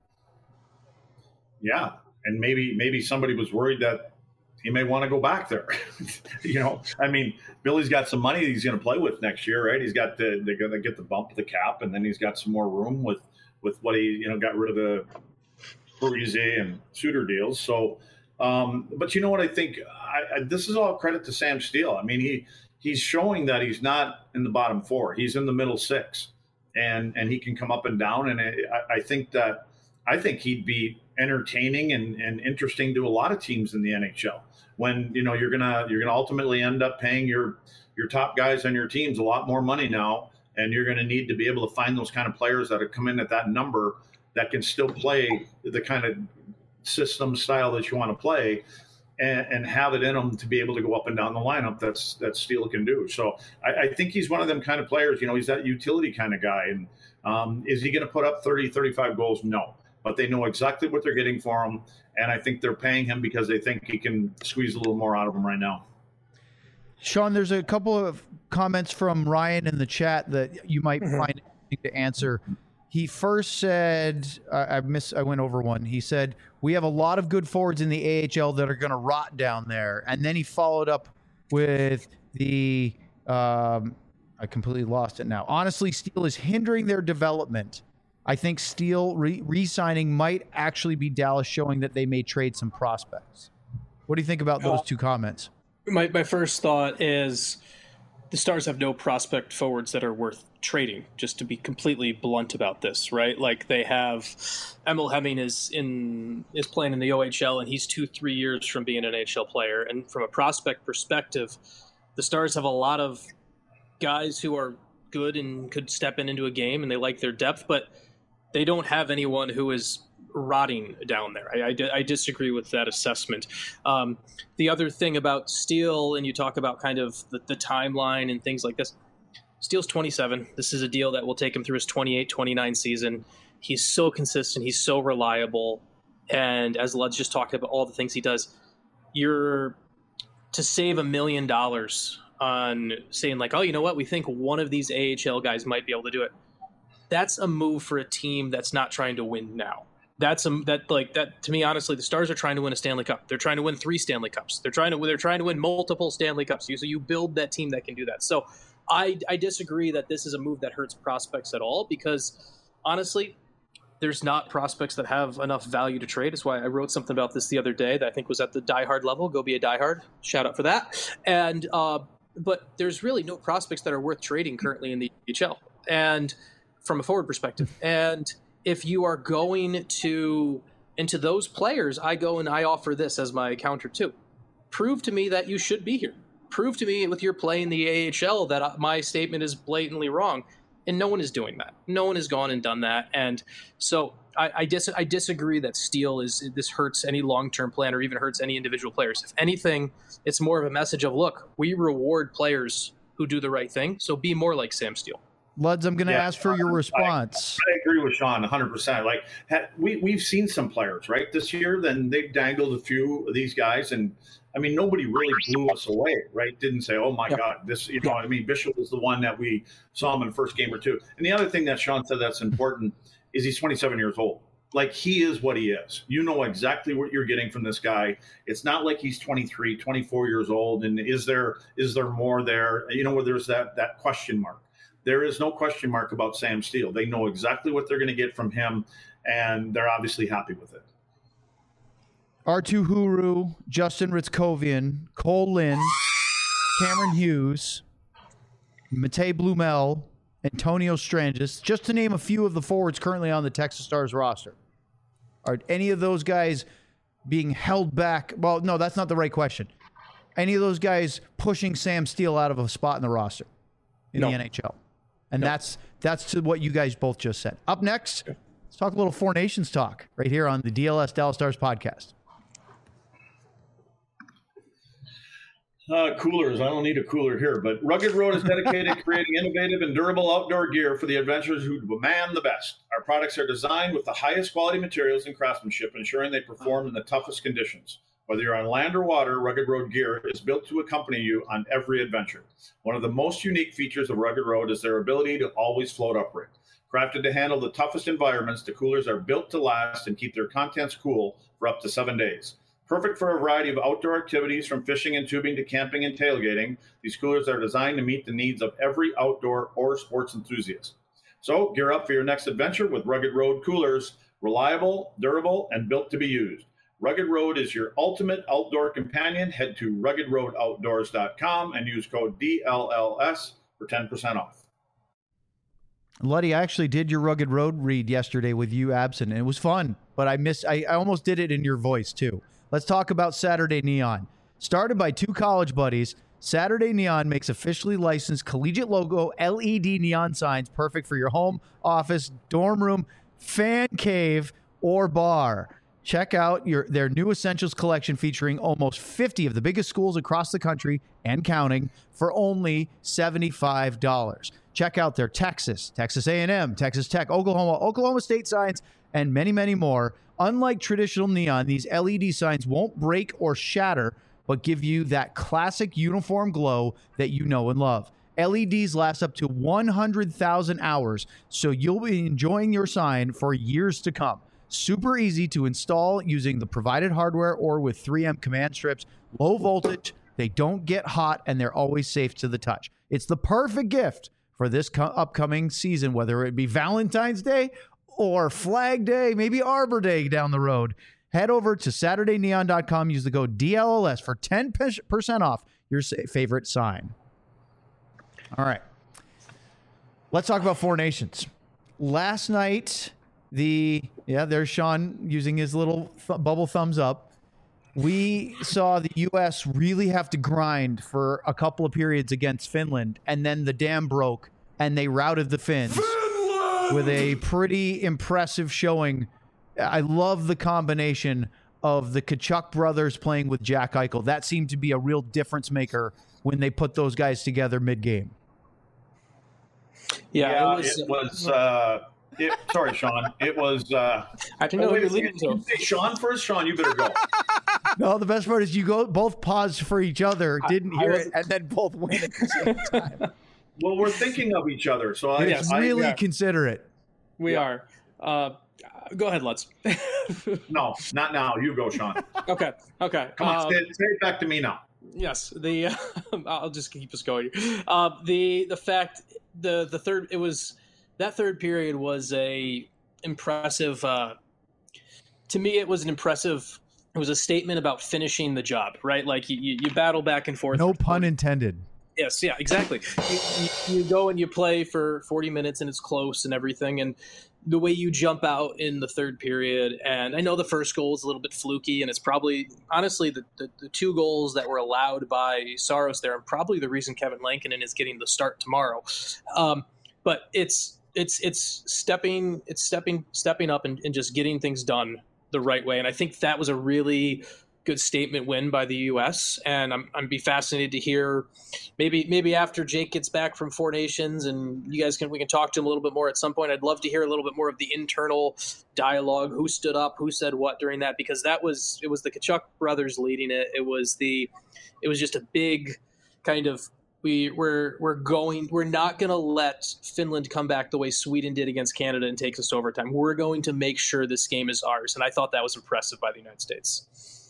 Yeah, and maybe maybe somebody was worried that he may want to go back there. You know, I mean, Billy's got some money he's going to play with next year, right? He's got the they're going to get the bump of the cap, and then he's got some more room with with what he you know got rid of the Parise and Suter deals. So, um, but you know what? I think I, I, this is all credit to Sam Steele. I mean, he he's showing that he's not in the bottom four; he's in the middle six, and and he can come up and down. And I, I think that I think he'd be entertaining and, and interesting to a lot of teams in the N H L. When you know you're gonna you're gonna ultimately end up paying your your top guys on your teams a lot more money now, and you're going to need to be able to find those kind of players that have come in at that number that can still play the kind of system style that you want to play, and, and have it in them to be able to go up and down the lineup. That's that Steele can do. So I, I think he's one of them kind of players. You know, he's that utility kind of guy. And um, is he going to put up thirty, thirty-five goals? No. But they know exactly what they're getting for him, and I think they're paying him because they think he can squeeze a little more out of him right now. Sean, there's a couple of comments from Ryan in the chat that you might mm-hmm. find interesting to answer. He first said, I, I miss, I went over one. He said, we have a lot of good forwards in the A H L that are going to rot down there. And then he followed up with the, um, I completely lost it now. Honestly, Steele is hindering their development. I think Steele re- re-signing might actually be Dallas showing that they may trade some prospects. What do you think about those two comments? My my first thought is the Stars have no prospect forwards that are worth trading, just to be completely blunt about this, right? Like they have Emil Hemming is in is playing in the O H L, and he's two, three years from being an N H L player. And from a prospect perspective, the Stars have a lot of guys who are good and could step in into a game, and they like their depth, but they don't have anyone who is rotting down there. I, I, I disagree with that assessment. Um, the other thing about Steele, and you talk about kind of the, the timeline and things like this, Steele's twenty-seven. This is a deal that will take him through his twenty-eight twenty-nine season. He's so consistent. He's so reliable. And as Lud's just talked about all the things he does, you're to save a million dollars on saying like, oh, you know what? We think one of these A H L guys might be able to do it. That's a move for a team that's not trying to win now. That's a, that like that to me, honestly, the Stars are trying to win a Stanley Cup. They're trying to win three Stanley Cups. They're trying to they're trying to win multiple Stanley Cups. So you build that team that can do that. So I I disagree that this is a move that hurts prospects at all, because honestly, there's not prospects that have enough value to trade. That's why I wrote something about this the other day that I think was at the diehard level. Go be a diehard. Shout out for that. And uh, but there's really no prospects that are worth trading currently in the A H L, and from a forward perspective. And if you are going to into those players, I go and I offer this as my counter too. Prove to me that you should be here. Prove to me with your play in the A H L that my statement is blatantly wrong. And no one is doing that. No one has gone and done that. And so I, I, dis- I disagree that Steele is this hurts any long-term plan or even hurts any individual players. If anything, it's more of a message of, look, we reward players who do the right thing. So be more like Sam Steele. Luds, I'm going to Yeah, ask for your response. I, I agree with Sean one hundred percent. Like ha, we, we've seen some players, right, this year, then they've dangled a few of these guys. And, I mean, nobody really blew us away, right? Didn't say, oh, my Yeah. God, this, you know, I mean, Bishop was the one that we saw him in the first game or two. And the other thing that Sean said that's important is he's twenty-seven years old. Like, he is what he is. You know exactly what you're getting from this guy. It's not like he's twenty-three, twenty-four years old. And is there is there more there? You know, where there's that that question mark. There is no question mark about Sam Steele. They know exactly what they're going to get from him, and they're obviously happy with it. Artu Huru, Justin Ritzkovian, Cole Lynn, Cameron Hughes, Matej Blumel, Antonio Strangis, just to name a few of the forwards currently on the Texas Stars roster. Are any of those guys being held back? Well, no, that's not the right question. Any of those guys pushing Sam Steele out of a spot in the roster in No. the N H L? And No. that's that's to what you guys both just said. Up next, let's talk a little Four Nations talk right here on the D L S Dallas Stars podcast. Uh, coolers. I don't need a cooler here, but Rugged Road is dedicated to creating innovative and durable outdoor gear for the adventurers who demand the best. Our products are designed with the highest quality materials and craftsmanship, ensuring they perform in the toughest conditions. Whether you're on land or water, Rugged Road gear is built to accompany you on every adventure. One of the most unique features of Rugged Road is their ability to always float upright. Crafted to handle the toughest environments, the coolers are built to last and keep their contents cool for up to seven days. Perfect for a variety of outdoor activities, from fishing and tubing to camping and tailgating, these coolers are designed to meet the needs of every outdoor or sports enthusiast. So gear up for your next adventure with Rugged Road coolers, reliable, durable, and built to be used. Rugged Road is your ultimate outdoor companion. Head to rugged road outdoors dot com and use code D L L S for ten percent off. Luddy, I actually did your Rugged Road read yesterday with you absent, and it was fun, but I missed, I, I almost did it in your voice too. Let's talk about Saturday Neon. Started by two college buddies, Saturday Neon makes officially licensed collegiate logo L E D neon signs perfect for your home, office, dorm room, fan cave, or bar. Check out your their new Essentials collection featuring almost fifty of the biggest schools across the country and counting for only seventy-five dollars. Check out their Texas, Texas A and M, Texas Tech, Oklahoma, Oklahoma State signs, and many, many more. Unlike traditional neon, these L E D signs won't break or shatter, but give you that classic uniform glow that you know and love. L E Ds last up to one hundred thousand hours, so you'll be enjoying your sign for years to come. Super easy to install using the provided hardware or with three M command strips. Low voltage, they don't get hot, and they're always safe to the touch. It's the perfect gift for this co- upcoming season, whether it be Valentine's Day or Flag Day, maybe Arbor Day down the road. Head over to Saturday Neon dot com. Use the code D L L S for ten percent off your favorite sign. All right. Let's talk about Four Nations. Last night, the, yeah, there's Sean using his little th- bubble thumbs up. we saw the U S really have to grind for a couple of periods against Finland, and then the dam broke, and they routed the Finns Finland! with a pretty impressive showing. I love the combination of the Tkachuk brothers playing with Jack Eichel. That seemed to be a real difference maker when they put those guys together mid-game. Yeah, yeah, it was. It was uh, it, sorry, Sean. It was. Uh, I didn't know oh, who wait, you're leading to. Say Sean first. Sean, you better go. No, the best part is you go both paused for each other, didn't I, hear I it, and then both went at the same time. Well, we're thinking of each other, so I, It's I really yeah. considerate. We Yeah. are. Uh, go ahead, Lutz. no, not now. You go, Sean. okay. Okay. Come on, Um, say, it, say it back to me now. Yes, the uh, I'll just keep us going. Uh, the the fact the the third it was that third period was a impressive. Uh, to me, it was an impressive. It was a statement about finishing the job, right? Like you, you battle back and forth. No pun intended. Yes, yeah, exactly. You, you, you go and you play for forty minutes and it's close and everything, and the way you jump out in the third period, and I know the first goal is a little bit fluky, and it's probably, honestly, the, the, the two goals that were allowed by Saros there, and probably the reason Kevin Lankinen is getting the start tomorrow. Um, but it's it's it's stepping it's stepping stepping up and, and just getting things done the right way, and I think that was a really good statement win by the U S, and I'm I'm be fascinated to hear maybe maybe after Jake gets back from Four Nations and you guys can we can talk to him a little bit more at some point. I'd love to hear a little bit more of the internal dialogue, who stood up, who said what during that, because that was it was the Tkachuk brothers leading it. It was the it was just a big kind of we we're we're going we're not going to let Finland come back the way Sweden did against Canada and take us to overtime. We're going to make sure this game is ours, and I thought that was impressive by the United States.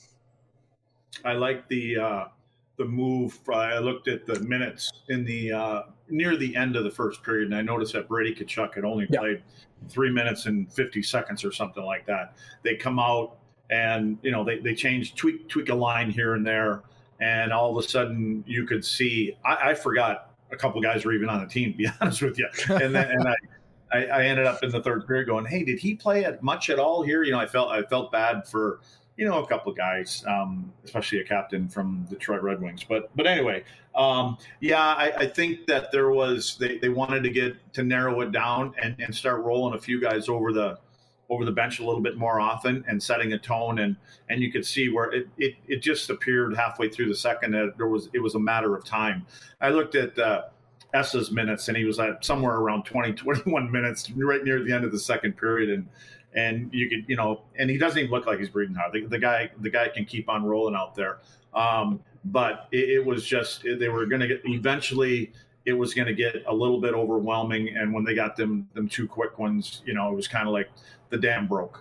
I like the uh, the move. I looked at the minutes in the uh, near the end of the first period, and I noticed that Brady Tkachuk had only Yeah. played three minutes and fifty seconds or something like that. They come out and you know they they change tweak tweak a line here and there, and all of a sudden you could see. I, I forgot a couple guys were even on the team, to be honest with you, and then and I. I, I ended up in the third period going, "Hey, did he play at much at all here?" You know, I felt I felt bad for you know a couple of guys, um, especially a captain from Detroit Red Wings. But but anyway, um, yeah, I, I think that there was they, they wanted to get to narrow it down and, and start rolling a few guys over the over the bench a little bit more often and setting a tone, and and you could see where it it, it just appeared halfway through the second that there was it was a matter of time. I looked at. Uh, Essa's minutes, and he was at somewhere around twenty, twenty-one minutes, right near the end of the second period, and and you could, you know, and he doesn't even look like he's breathing hard. The, the guy, the guy can keep on rolling out there, um, but it, it was just they were going to get eventually. It was going to get a little bit overwhelming, and when they got them them two quick ones, you know, it was kind of like the dam broke.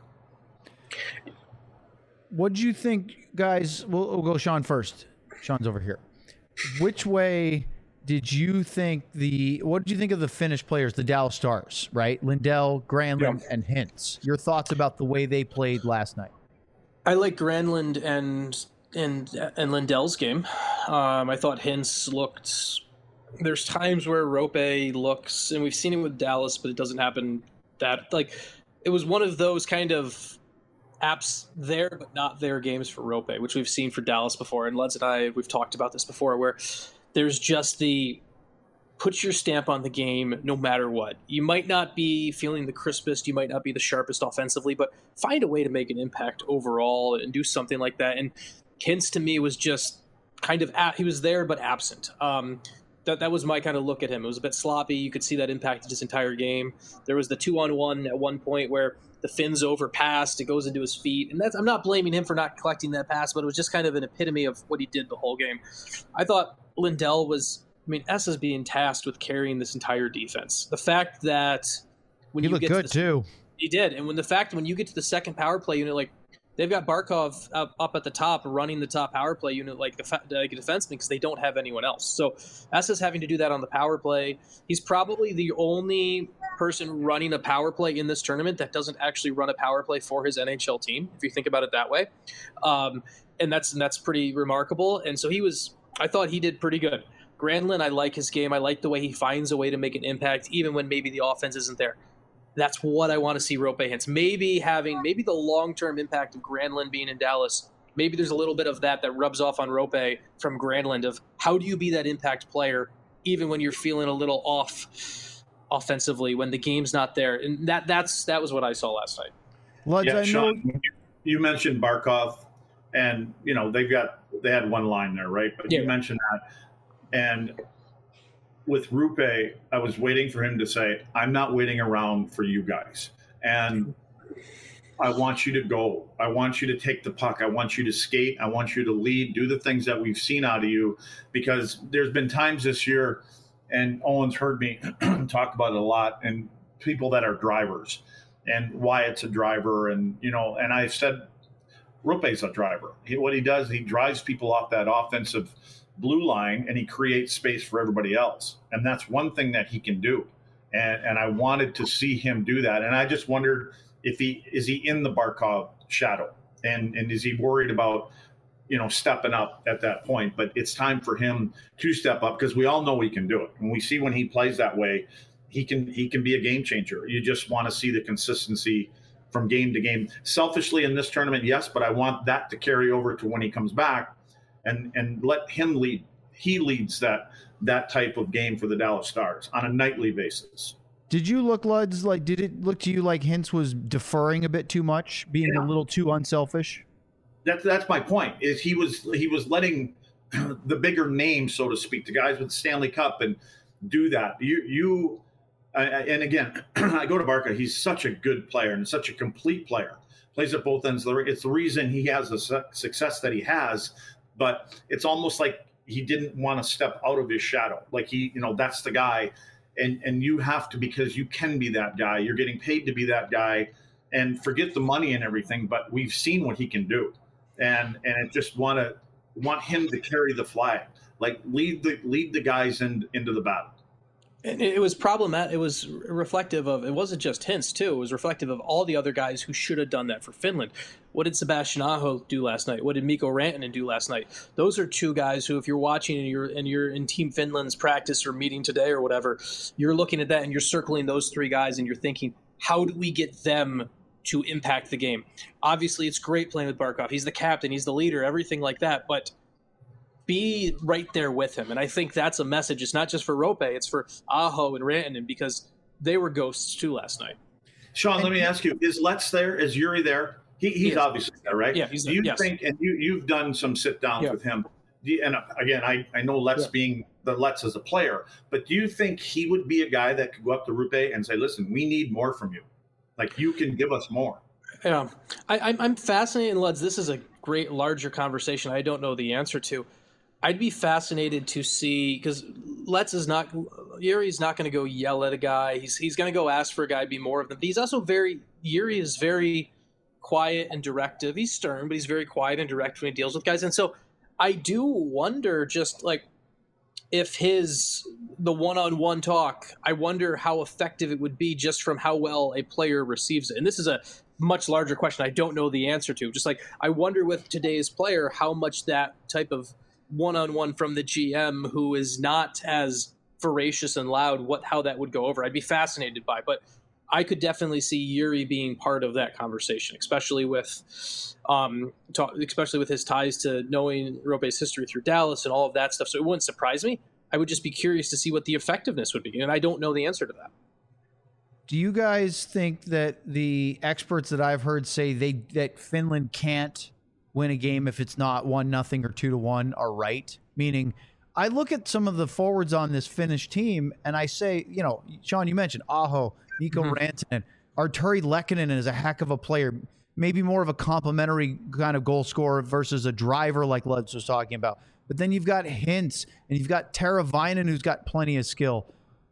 What do you think, guys? We'll, we'll go Sean first. Sean's over here. Which way did you think the what did you think of the Finnish players, the Dallas Stars, right? Lindell, Granlund, Yeah. and Hintz. Your thoughts about the way they played last night? I like Granlund and and and Lindell's game. Um, I thought Hintz looked. There's times where Rope looks, and we've seen it with Dallas, but it doesn't happen that like it was one of those kind of apps there but not there games for Rope, which we've seen for Dallas before. And Lutz and I we've talked about this before, where there's just the put your stamp on the game no matter what. You might not be feeling the crispest, you might not be the sharpest offensively, but find a way to make an impact overall and do something like that. And Hintz to me was just kind of at, he was there but absent. Um, that that was my kind of look at him. It was a bit sloppy. You could see that impacted his entire game. There was the two on one at one point where the Finns overpassed, it goes into his feet, and that's I'm not blaming him for not collecting that pass, but it was just kind of an epitome of what he did the whole game. I thought Lindell was, I mean, S is being tasked with carrying this entire defense. The fact that when He you looked get good to the, too. he did, and when the fact when you get to the second power play unit, like they've got Barkov up, up at the top running the top power play unit like a, like a defenseman because they don't have anyone else. So S is having to do that on the power play. He's probably the only person running a power play in this tournament that doesn't actually run a power play for his N H L team, if you think about it that way. Um, and that's and that's pretty remarkable. And so he was, I thought he did pretty good. Granlund, I like his game. I like the way he finds a way to make an impact, even when maybe the offense isn't there. That's what I want to see Rope Hintz. Maybe having maybe the long-term impact of Granlund being in Dallas maybe there's a little bit of that that rubs off on Rope from Granlund of how do you be that impact player even when you're feeling a little off offensively when the game's not there. And that that's that was what I saw last night. Luds, yeah, I Sean, know you mentioned Barkov, and you know they've got they had one line there, right? But yeah. you mentioned that, and with Rupe, I was waiting for him to say, "I'm not waiting around for you guys," and I want you to go. I want you to take the puck. I want you to skate. I want you to lead. Do the things that we've seen out of you, because there's been times this year, and Owen's heard me talk about it a lot, and people that are drivers. And Wyatt's a driver, and you know, and I said, Rupe's a driver. He, what he does, he drives people off that offensive blue line, and he creates space for everybody else. And that's one thing that he can do. And and I wanted to see him do that. And I just wondered if he is he in the Barkov shadow, and and is he worried about, you know, stepping up at that point? But it's time for him to step up, because we all know he can do it, and we see when he plays that way. He can he can be a game changer. You just want to see the consistency from game to game. Selfishly in this tournament, yes, but I want that to carry over to when he comes back, and and let him lead. He leads that that type of game for the Dallas Stars on a nightly basis. Did you look, Luds, like did it look to you like Hintz was deferring a bit too much, being yeah. a little too unselfish? That's that's my point. Is he was he was letting the bigger names, so to speak, the guys with the Stanley Cup, and do that. You you. I, and again, I go to Barca. He's such a good player and such a complete player. Plays at both ends. It's the reason he has the su- success that he has. But it's almost like he didn't want to step out of his shadow. Like he, you know, that's the guy, and and you have to, because you can be that guy. You're getting paid to be that guy, and forget the money and everything. But we've seen what he can do, and and I just want to want him to carry the flag, like lead the lead the guys in, into the battle. And it was problematic. It was reflective of, it wasn't just Hintz too. It was reflective of all the other guys who should have done that for Finland. What did Sebastian Aho do last night? What did Mikko Rantanen do last night? Those are two guys who, if you're watching and you're and you're in Team Finland's practice or meeting today or whatever, you're looking at that and you're circling those three guys and you're thinking, how do we get them to impact the game? Obviously, it's great playing with Barkov. He's the captain. He's the leader. Everything like that. But be right there with him. And I think that's a message. It's not just for Rope, it's for Aho and Rantanen, because they were ghosts too last night. Sean, let me ask you, is Let's there? Is Yuri there? He, he's he obviously there, right? Yeah, he's there. Do you yes. think, and you, you've done some sit downs yeah. with him, do you, and again, I, I know Let's yeah. being the Let's as a player, but do you think he would be a guy that could go up to Rupe and say, listen, we need more from you? Like, you can give us more. Yeah. I, I'm fascinated, Luds. This is a great, larger conversation I don't know the answer to. I'd be fascinated to see, because Let's is not, Yuri's not going to go yell at a guy. He's he's going to go ask for a guy to be more of them. But he's also very, Yuri is very quiet and directive. He's stern, but he's very quiet and direct when he deals with guys. And so I do wonder just like if his, the one-on-one talk, I wonder how effective it would be just from how well a player receives it. And this is a much larger question I don't know the answer to. Just like, I wonder with today's player, how much that type of one-on-one from the G M who is not as voracious and loud, what how that would go over. I'd be fascinated by, but I could definitely see Yuri being part of that conversation, especially with um talk, especially with his ties to knowing Rope's history through Dallas and all of that stuff. So it wouldn't surprise me. I would just be curious to see what the effectiveness would be, and I don't know the answer to that. Do you guys think that the experts that I've heard say they that Finland can't win a game if it's not one nothing or two to one are right? Meaning, I look at some of the forwards on this Finnish team and I say, you know, Sean, you mentioned Aho, Mikko mm-hmm. Rantanen, Arturi Lehkonen is a heck of a player, maybe more of a complementary kind of goal scorer versus a driver like Luds was talking about. But then you've got Hintz and you've got Teravainen, who's got plenty of skill.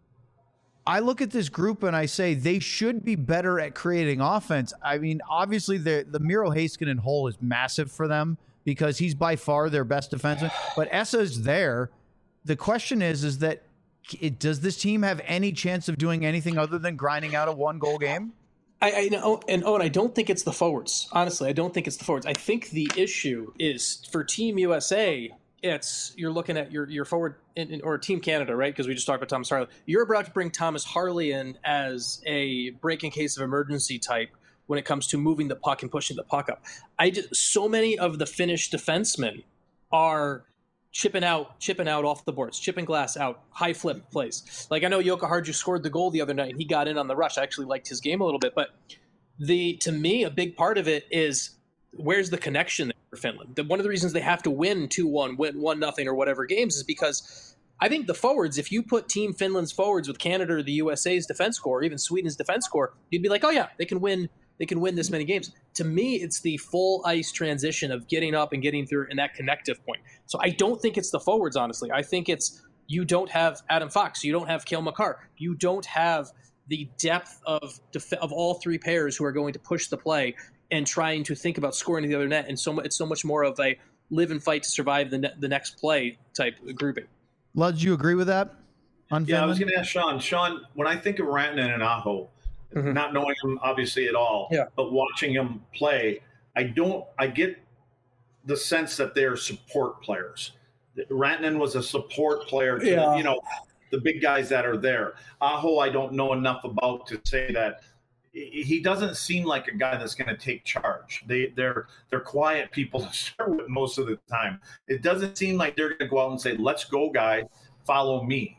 I look at this group and I say they should be better at creating offense. I mean, obviously the the Miro Heiskanen hole is massive for them because he's by far their best defenseman. But Essa's there. The question is, is that it, does this team have any chance of doing anything other than grinding out a one goal game? I, I know, and oh, and I don't think it's the forwards. Honestly, I don't think it's the forwards. I think the issue is for Team U S A. It's you're looking at your your forward in, in, or Team Canada, right? Because we just talked about Thomas Harley. You're about to bring Thomas Harley in as a break in case of emergency type when it comes to moving the puck and pushing the puck up. I just, so many of the Finnish defensemen are chipping out, chipping out off the boards, chipping glass out, high flip plays. Like I know Jukka Harju scored the goal the other night and he got in on the rush. I actually liked his game a little bit, but the to me a big part of it is where's the connection there for Finland? The, one of the reasons they have to win two one, win one nothing or whatever games is because I think the forwards, if you put Team Finland's forwards with Canada or the U S A's defense score, or even Sweden's defense score, you'd be like, oh yeah, they can win. They can win this many games. To me, it's the full ice transition of getting up and getting through and that connective point. So I don't think it's the forwards, honestly. I think it's you don't have Adam Fox, you don't have Cale Makar, you don't have the depth of def- of all three pairs who are going to push the play and trying to think about scoring to the other net. And so it's so much more of a live and fight to survive the ne- the next play type grouping. Lud, do you agree with that? On Yeah, I was Finland? going to ask Sean. Sean, when I think of Rantanen and Aho, mm-hmm. not knowing him obviously at all, yeah. but watching him play, I don't. I get the sense that they're support players. Rantanen was a support player to yeah. you know the big guys that are there. Aho, I don't know enough about to say that. He doesn't seem like a guy that's going to take charge. They, they're they're quiet people to start with most of the time. It doesn't seem like they're going to go out and say, "Let's go, guys, follow me."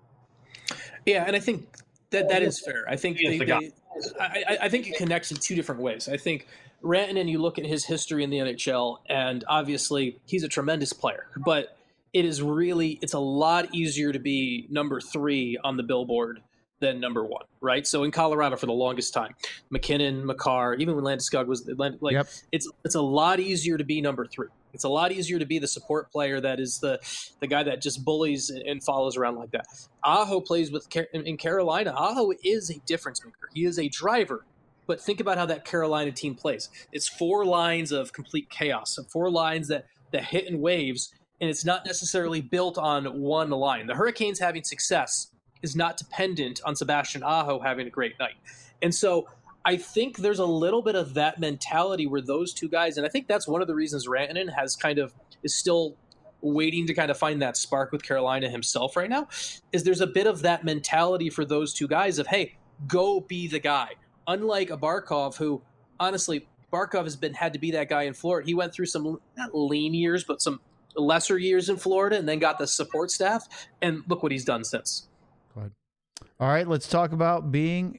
Yeah, and I think that that is fair. I think they, the they, I, I think it connects in two different ways. I think Rantanen, you look at his history in the N H L, and obviously he's a tremendous player, but it is really it's a lot easier to be number three on the billboard than number one, right? So in Colorado for the longest time, McKinnon, Makar, even when Landeskog was like, Yep. it's it's a lot easier to be number three. It's a lot easier to be the support player that is the the guy that just bullies and follows around like that. Aho plays with in Carolina. Aho is a difference maker. He is a driver. But think about how that Carolina team plays. It's four lines of complete chaos, four lines that that hit in waves, and it's not necessarily built on one line. The Hurricanes having success is not dependent on Sebastian Aho having a great night. And so I think there's a little bit of that mentality where those two guys, and I think that's one of the reasons Rantanen has kind of is still waiting to kind of find that spark with Carolina himself right now, is there's a bit of that mentality for those two guys of, hey, go be the guy. Unlike a Barkov who, honestly, Barkov has been had to be that guy in Florida. He went through some, not lean years, but some lesser years in Florida and then got the support staff. And look what he's done since. Go ahead. All right, let's talk about being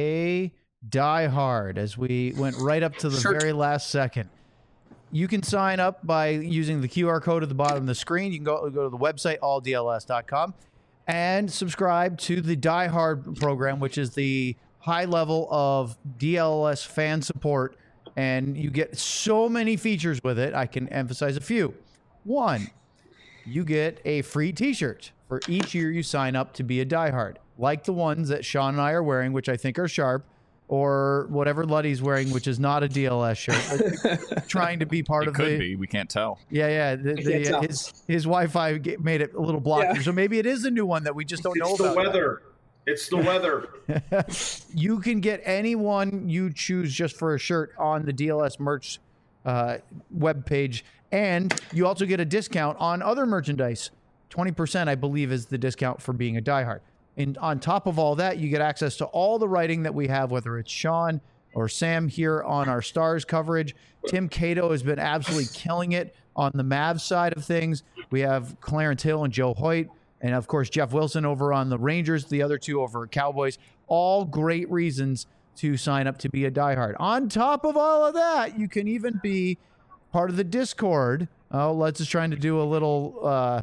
a diehard as we went right up to the Sure. very last second. You can sign up by using the Q R code at the bottom of the screen. You can go, go to the website, all D L S dot com, and subscribe to the Die Hard program, which is the high level of D L S fan support. And you get so many features with it. I can emphasize a few. One, you get a free t-shirt for each year you sign up to be a diehard, like the ones that Sean and I are wearing, which I think are sharp, or whatever Luddy's wearing, which is not a D L S shirt, trying to be part It of could the. be. We can't tell. Yeah, yeah. The, can't the, tell. his his Wi-Fi get- made it a little blocky, Yeah. so maybe it is a new one that we just don't know It's the about. weather. It's the weather. You can get any one you choose just for a shirt on the D L S merch uh, webpage, and you also get a discount on other merchandise. twenty percent, I believe, is the discount for being a diehard. And on top of all that, you get access to all the writing that we have, whether it's Sean or Sam here on our Stars coverage. Tim Cato has been absolutely killing it on the Mavs side of things. We have Clarence Hill and Joe Hoyt, and of course, Jeff Wilson over on the Rangers, the other two over at Cowboys. All great reasons to sign up to be a diehard. On top of all of that, you can even be part of the Discord. Oh, let's just trying to do a little uh,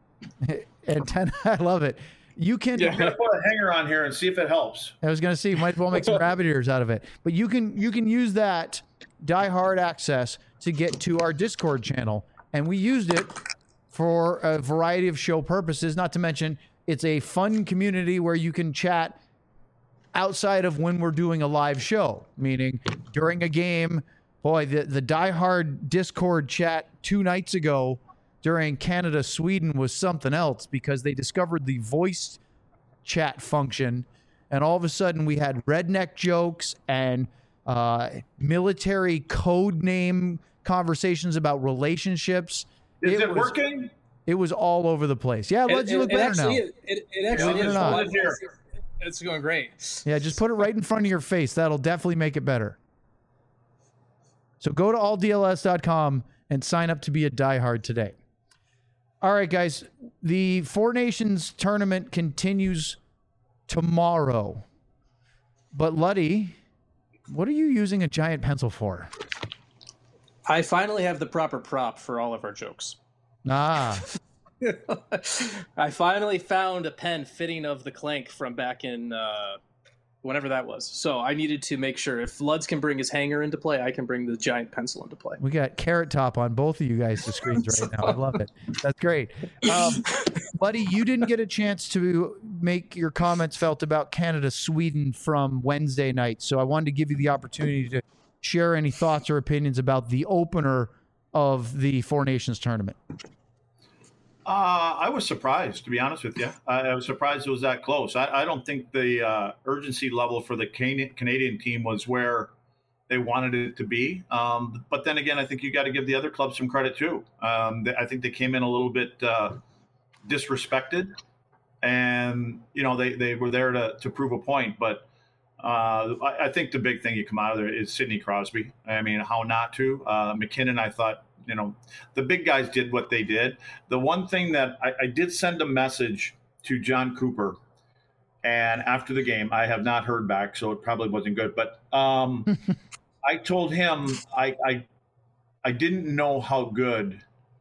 antenna. I love it. You can. I'm gonna put a hanger on here and see if it helps. I was going to see, might as well make some rabbit ears out of it. But you can you can use that diehard access to get to our Discord channel, and we used it for a variety of show purposes. Not to mention, it's a fun community where you can chat outside of when we're doing a live show, meaning during a game. Boy, the the diehard Discord chat two nights ago during Canada Sweden was something else, because they discovered the voice chat function, and all of a sudden we had redneck jokes and uh, military code name conversations about relationships. Is it, was, working? It was all over the place. Yeah, let's you look it better actually, now. It, it, it actually Believe it is. or not. It's, it's going great. Yeah, just put it right in front of your face. That'll definitely make it better. So go to all D L S dot com and sign up to be a diehard today. All right, guys. The Four Nations tournament continues tomorrow. But Luddy, what are you using a giant pencil for? I finally have the proper prop for all of our jokes. Ah. I finally found a pen fitting of the Clank from back in uh, whenever that was. So I needed to make sure if Luds can bring his hanger into play, I can bring the giant pencil into play. We got Carrot Top on both of you guys' screens right now. I love it. That's great. Um, Buddy, you didn't get a chance to make your comments felt about Canada-Sweden from Wednesday night, so I wanted to give you the opportunity to share any thoughts or opinions about the opener of the Four Nations tournament. Uh, I was surprised, to be honest with you. I, I was surprised it was that close. I, I don't think the uh, urgency level for the Can- Canadian team was where they wanted it to be. Um, but then again, I think you got to give the other clubs some credit too. Um, they, I think they came in a little bit uh, disrespected, and you know they, they were there to, to prove a point. But uh, I, I think the big thing you come out of there is Sidney Crosby. I mean, how not to? Uh, McKinnon, I thought. You know, the big guys did what they did. The one thing that I, I did send a message to John Cooper, and after the game, I have not heard back, so it probably wasn't good. But um, I told him I, I I didn't know how good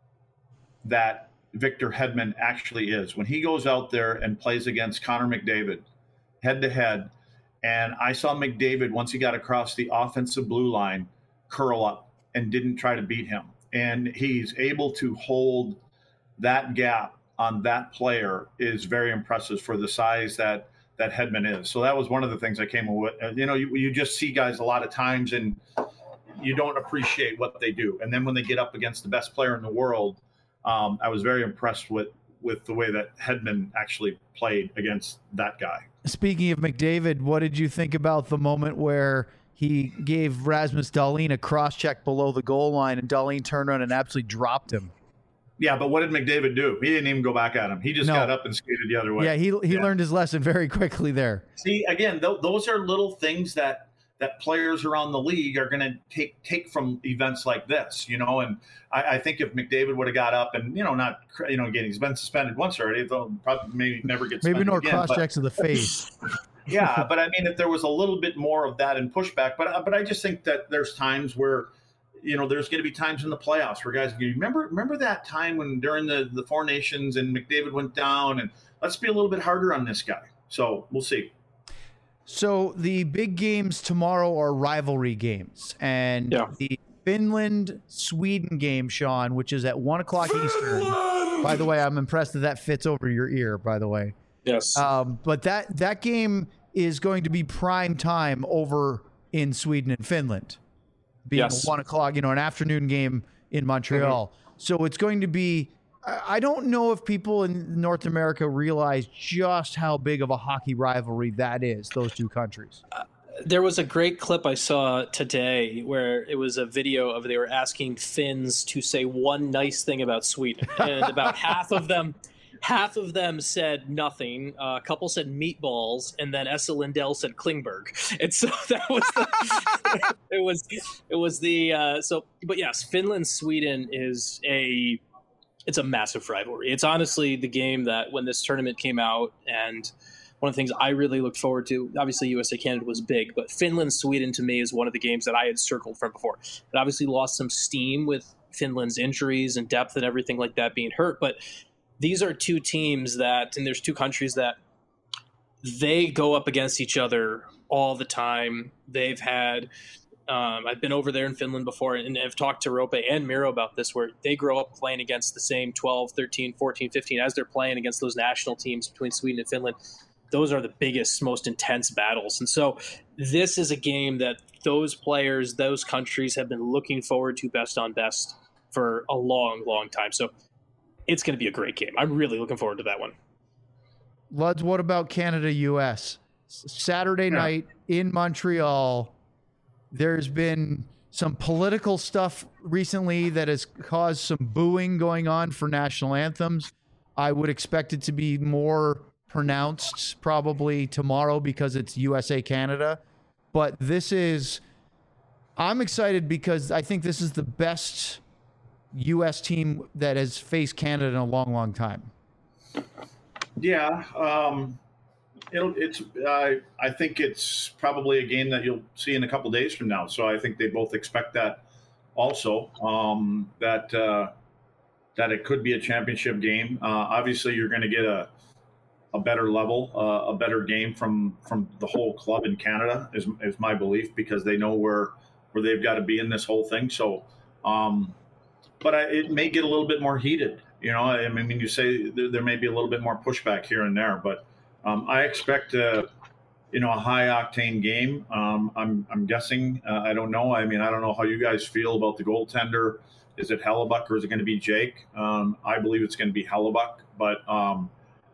that Victor Hedman actually is. When he goes out there and plays against Connor McDavid head to head, and I saw McDavid once he got across the offensive blue line curl up and didn't try to beat him. And he's able to hold that gap on that player is very impressive for the size that that Hedman is. So that was one of the things I came with. You know, you, you just see guys a lot of times and you don't appreciate what they do. And then when they get up against the best player in the world, um, I was very impressed with, with the way that Hedman actually played against that guy. Speaking of McDavid, what did you think about the moment where he gave Rasmus Dahlin a cross-check below the goal line, and Dahlin turned around and absolutely dropped him? Yeah, but what did McDavid do? He didn't even go back at him. He just no. got up and skated the other way. Yeah, he he yeah. learned his lesson very quickly there. See, again, th- those are little things that that players around the league are going to take take from events like this, you know. And I, I think if McDavid would have got up and, you know, not, you know, again, he's been suspended once already. They'll probably maybe never get suspended maybe no again, cross-checks but, to the face. Yeah, but I mean, if there was a little bit more of that and pushback, but but I just think that there's times where, you know, there's going to be times in the playoffs where guys, you remember remember that time when during the, the Four Nations and McDavid went down, and let's be a little bit harder on this guy. So we'll see. So the big games tomorrow are rivalry games, and yeah. the Finland-Sweden game, Sean, which is at one o'clock Eastern. By the way, I'm impressed that that fits over your ear, by the way. Yes. Um, but that, that game is going to be prime time over in Sweden and Finland, being yes. a one o'clock, you know, an afternoon game in Montreal. Mm-hmm. So it's going to be, I don't know if people in North America realize just how big of a hockey rivalry that is, those two countries. Uh, there was a great clip I saw today where it was a video of they were asking Finns to say one nice thing about Sweden. And about half of them... Half of them said nothing. Uh, a couple said meatballs, and then Essa Lindell said Klingberg. And so that was the, it was it was the uh, so. But yes, Finland Sweden is a it's a massive rivalry. It's honestly the game that when this tournament came out, and one of the things I really looked forward to. Obviously, U S A Canada was big, but Finland Sweden to me is one of the games that I had circled from before. It obviously lost some steam with Finland's injuries and depth and everything like that being hurt, but these are two teams that, and there's two countries that they go up against each other all the time. They've had, um, I've been over there in Finland before, and I've talked to Rope and Miro about this, where they grow up playing against the same twelve, thirteen, fourteen, fifteen, as they're playing against those national teams between Sweden and Finland. Those are the biggest, most intense battles. And so this is a game that those players, those countries have been looking forward to best on best for a long, long time. So it's going to be a great game. I'm really looking forward to that one. Luds, what about Canada U S? Saturday yeah. night in Montreal, there's been some political stuff recently that has caused some booing going on for national anthems. I would expect it to be more pronounced probably tomorrow because it's U S A Canada. But this is I'm excited because I think this is the best U S team that has faced Canada in a long, long time. Yeah, um, it'll, it's. I I think it's probably a game that you'll see in a couple days from now. So I think they both expect that. Also, um, that uh, that it could be a championship game. Uh, obviously, you're going to get a a better level, uh, a better game from from the whole club in Canada is is my belief, because they know where where they've got to be in this whole thing. So, um, but I, it may get a little bit more heated. You know, I mean, you say there, there may be a little bit more pushback here and there, but um, I expect uh, you know a high octane game. Um, I'm I'm guessing. Uh, I don't know. I mean, I don't know how you guys feel about the goaltender. Is it Hellebuyck or is it going to be Jake? Um, I believe it's going to be Hellebuyck, but. Um,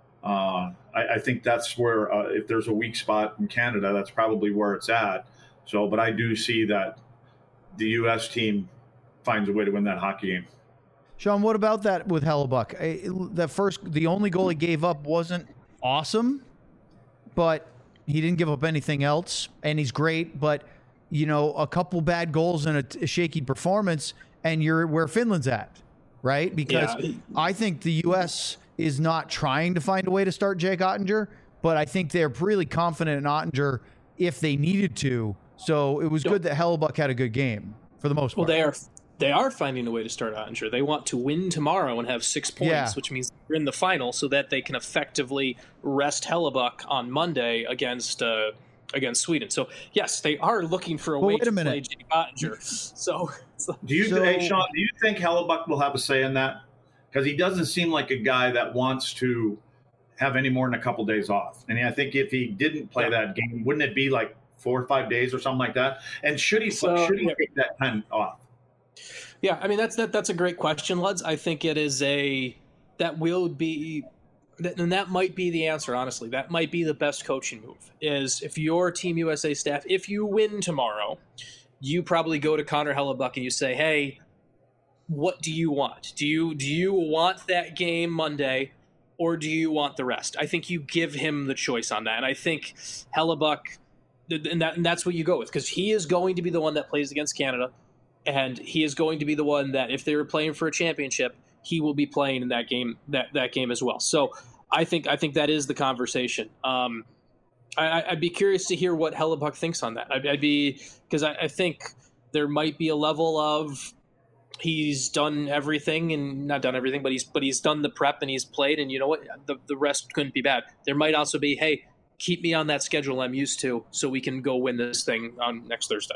Uh, I, I think that's where, uh, if there's a weak spot in Canada, that's probably where it's at. So, but I do see that the U S team finds a way to win that hockey game. Sean, what about that with Hellebuyck? The first, the only goal he gave up wasn't awesome, but he didn't give up anything else, and he's great. But you know, a couple bad goals and a, a shaky performance, and you're where Finland's at, right? Because yeah. I think the U S is not trying to find a way to start Jake Ottinger, but I think they're really confident in Ottinger if they needed to. So it was yep. good that Hellebuyck had a good game for the most part. Well, they are they are finding a way to start Ottinger. They want to win tomorrow and have six points, yeah. which means they're in the final, so that they can effectively rest Hellebuyck on Monday against uh, against Sweden. So yes, they are looking for a well, way wait to a minute. play Jake Ottinger. So, so do you, so, hey Sean? Do you think Hellebuyck will have a say in that? Because he doesn't seem like a guy that wants to have any more than a couple days off. And I think if he didn't play yeah. that game, wouldn't it be like four or five days or something like that? And should he so, should he yeah. take that time off? Yeah, I mean that's that that's a great question, Luds. I think it is a that will be, and that might be the answer. Honestly, that might be the best coaching move. Is if your Team U S A staff, if you win tomorrow, you probably go to Connor Hellebuyck and you say, hey, what do you want? Do you do you want that game Monday, or do you want the rest? I think you give him the choice on that, and I think Hellebuyck, and, that, and that's what you go with, because he is going to be the one that plays against Canada, and he is going to be the one that if they were playing for a championship, he will be playing in that game that, that game as well. So I think I think that is the conversation. Um, I, I'd be curious to hear what Hellebuyck thinks on that. I'd, I'd be because I, I think there might be a level of. He's done everything, and not done everything, but he's but he's done the prep and he's played, and you know what? The the rest couldn't be bad. There might also be, hey, keep me on that schedule I'm used to, so we can go win this thing on next Thursday.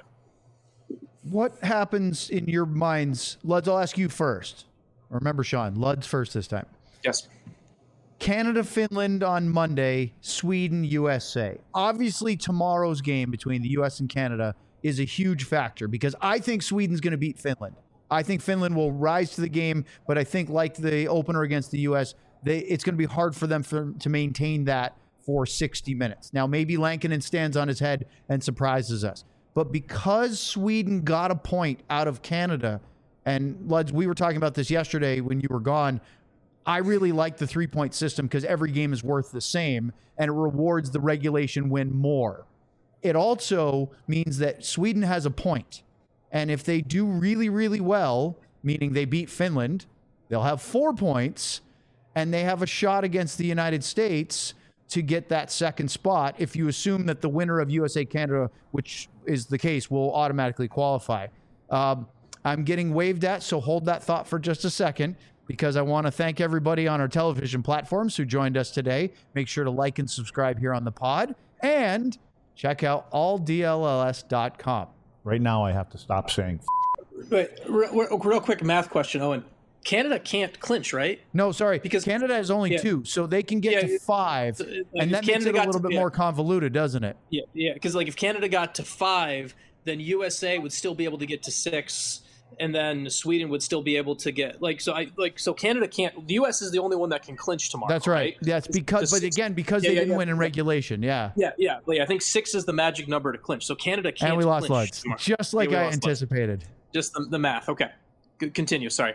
What happens in your minds, Luds? I'll ask you first. Remember, Sean, Luds first this time. Yes. Canada, Finland on Monday. Sweden, U S A. Obviously, tomorrow's game between the U S and Canada is a huge factor because I think Sweden's going to beat Finland. I think Finland will rise to the game, but I think like the opener against the U S, they, it's going to be hard for them for, to maintain that for sixty minutes. Now, maybe Lankinen stands on his head and surprises us. But because Sweden got a point out of Canada, and Luds, we were talking about this yesterday when you were gone, I really like the three-point system because every game is worth the same, and it rewards the regulation win more. It also means that Sweden has a point. And if they do really, really well, meaning they beat Finland, they'll have four points, and they have a shot against the United States to get that second spot if you assume that the winner of U S A Canada, which is the case, will automatically qualify. Um, I'm getting waved at, so hold that thought for just a second, because I want to thank everybody on our television platforms who joined us today. Make sure to like and subscribe here on the pod, and check out all D L L S dot com. Right now, I have to stop saying. Wait, real, real quick math question, Owen. Canada can't clinch, right? No, sorry, because Canada has only yeah. two, so they can get yeah, to five, so, like, and that makes it a little to, bit yeah. more convoluted, doesn't it? Yeah, yeah, because like if Canada got to five, then U S A would still be able to get to six, and then Sweden would still be able to get like so. I like so Canada can't. The U S is the only one that can clinch tomorrow. That's right. right? That's because, but six, again, because yeah, they yeah, didn't yeah, win in yeah. regulation. Yeah. Yeah, yeah. Like, I think six is the magic number to clinch. So Canada can't. And we lost Luds, just like yeah, I anticipated. Luds. Just the, the math. Okay. Good. Continue. Sorry.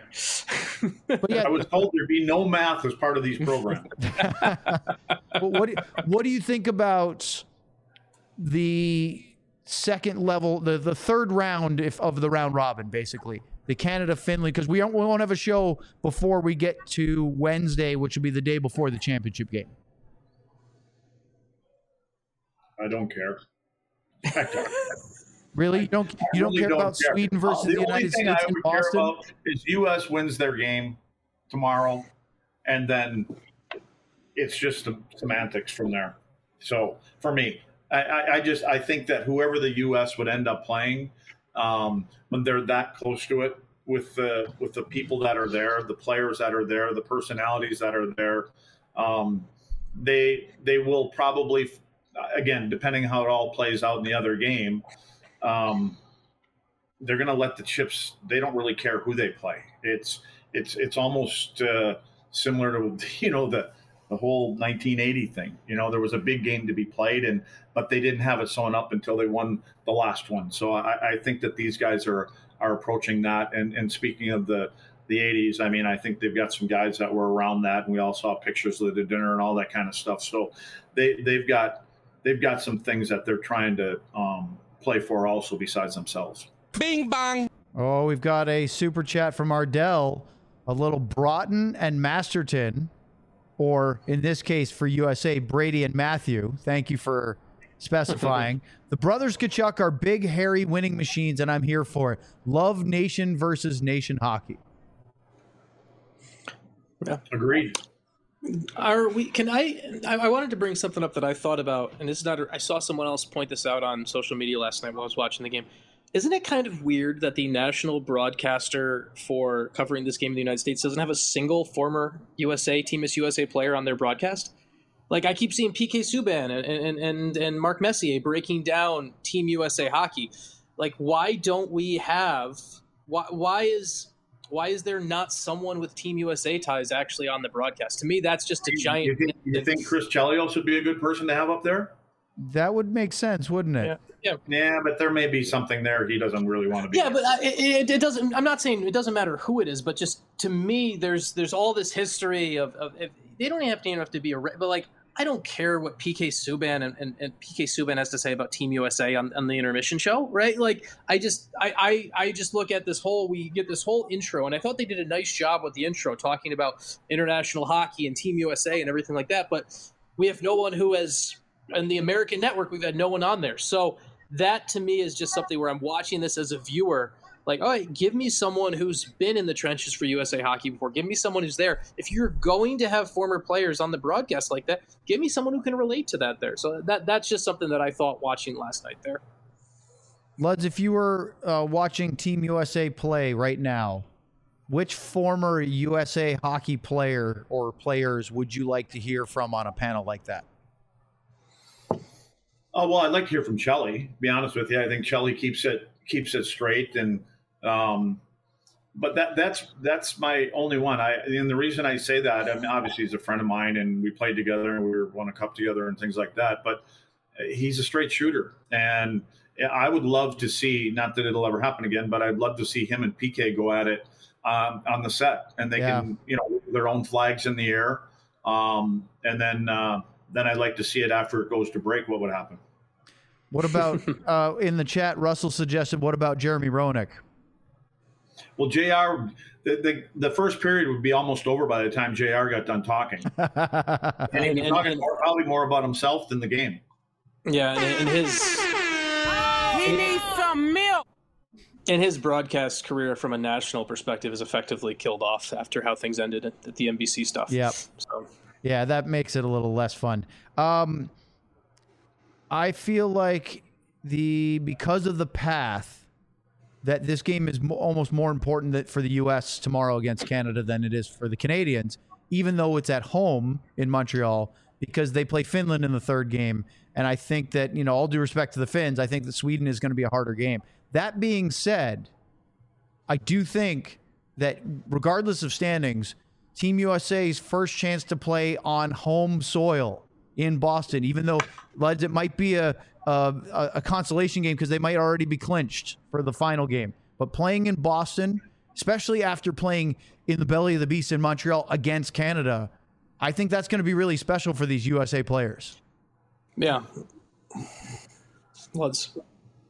But yeah, I was told there'd be no math as part of these programs. But what do, what do you think about the second level, the, the third round if, of the round robin, basically. The Canada, Finland, because we, don't, we won't have a show before we get to Wednesday, which will be the day before the championship game. I don't care. I don't. Really? You don't, you don't really care don't about care. Sweden versus the the United thing States I in would care Boston? about is U S wins their game tomorrow, and then it's just the semantics from there. So for me, I, I, I just I think that whoever the U S would end up playing, um, when they're that close to it, with the with the people that are there, the players that are there, the personalities that are there, um, they they will probably, again, depending how it all plays out in the other game, um, they're going to let the chips. They don't really care who they play. It's it's it's almost uh, similar to you know the the whole nineteen eighty thing. You know, there was a big game to be played, and but they didn't have it sewn up until they won the last one. So I, I think that these guys are are approaching that. And and speaking of the the eighties, I mean, I think they've got some guys that were around that, and we all saw pictures of the dinner and all that kind of stuff. So they they've got they've got some things that they're trying to um, play for also besides themselves. Bing bang. Oh, we've got a super chat from Ardell. A little Broughton and Masterton, or in this case for U S A, Brady and Matthew. Thank you for specifying. The brothers Tkachuk are big, hairy winning machines, and I'm here for it. Love nation versus nation hockey. Yeah. Agreed. Are we? Can I, I? I wanted to bring something up that I thought about, and this is not. I saw someone else point this out on social media last night while I was watching the game. Isn't it kind of weird that the national broadcaster for covering this game in the United States doesn't have a single former U S A, Team U S A player on their broadcast? Like, I keep seeing P K Subban and and and, and Mark Messier breaking down Team U S A hockey. Like, why don't we have? Why why is why is there not someone with Team U S A ties actually on the broadcast? To me, that's just a giant. You think, you think Chris Chelios would be a good person to have up there? That would make sense, wouldn't it? Yeah. Yeah. Yeah, but there may be something there he doesn't really want to be. Yeah, but uh, it, it doesn't. I'm not saying it doesn't matter who it is, but just to me, there's there's all this history of, of if, they don't have to, even have to be a, but like I don't care what P K Subban and, and, and P K Subban has to say about Team U S A on, on the intermission show, right? Like I just I, I I just look at this whole we get this whole intro, and I thought they did a nice job with the intro talking about international hockey and Team U S A and everything like that, but we have no one who has. And the American network, we've had no one on there. So that to me is just something where I'm watching this as a viewer. Like, all right, give me someone who's been in the trenches for U S A Hockey before. Give me someone who's there. If you're going to have former players on the broadcast like that, give me someone who can relate to that there. So that that's just something that I thought watching last night there. Luds, if you were uh, watching Team U S A play right now, which former U S A hockey player or players would you like to hear from on a panel like that? Oh well, I'd like to hear from Chelly. To be honest with you, I think Chelly keeps it keeps it straight, and um, but that that's that's my only one. I and the reason I say that, I mean, obviously he's a friend of mine, and we played together, and we were won a cup together, and things like that. But he's a straight shooter, and I would love to see. Not that it'll ever happen again, but I'd love to see him and P K go at it um, on the set, and they Yeah. can, you know, their own flags in the air, um, and then uh, then I'd like to see it after it goes to break. What would happen? What about, uh, in the chat, Russell suggested, what about Jeremy Roenick? Well, J R, the, the the first period would be almost over by the time J R got done talking. And he was And- talking and- more, probably more about himself than the game. Yeah, and, and his He needs some milk. and his broadcast career from a national perspective is effectively killed off after how things ended at, at the N B C stuff. Yep. So Yeah, that makes it a little less fun. Um, I feel like the because of the path that this game is mo- almost more important that for the U S tomorrow against Canada than it is for the Canadians, even though it's at home in Montreal, because they play Finland in the third game. And I think that, you know, all due respect to the Finns, I think that Sweden is going to be a harder game. That being said, I do think that regardless of standings, Team U S A's first chance to play on home soil in Boston, even though, lads, it might be a a, a consolation game because they might already be clinched for the final game. But playing in Boston, especially after playing in the belly of the beast in Montreal against Canada, I think that's going to be really special for these U S A players. yeah, let's.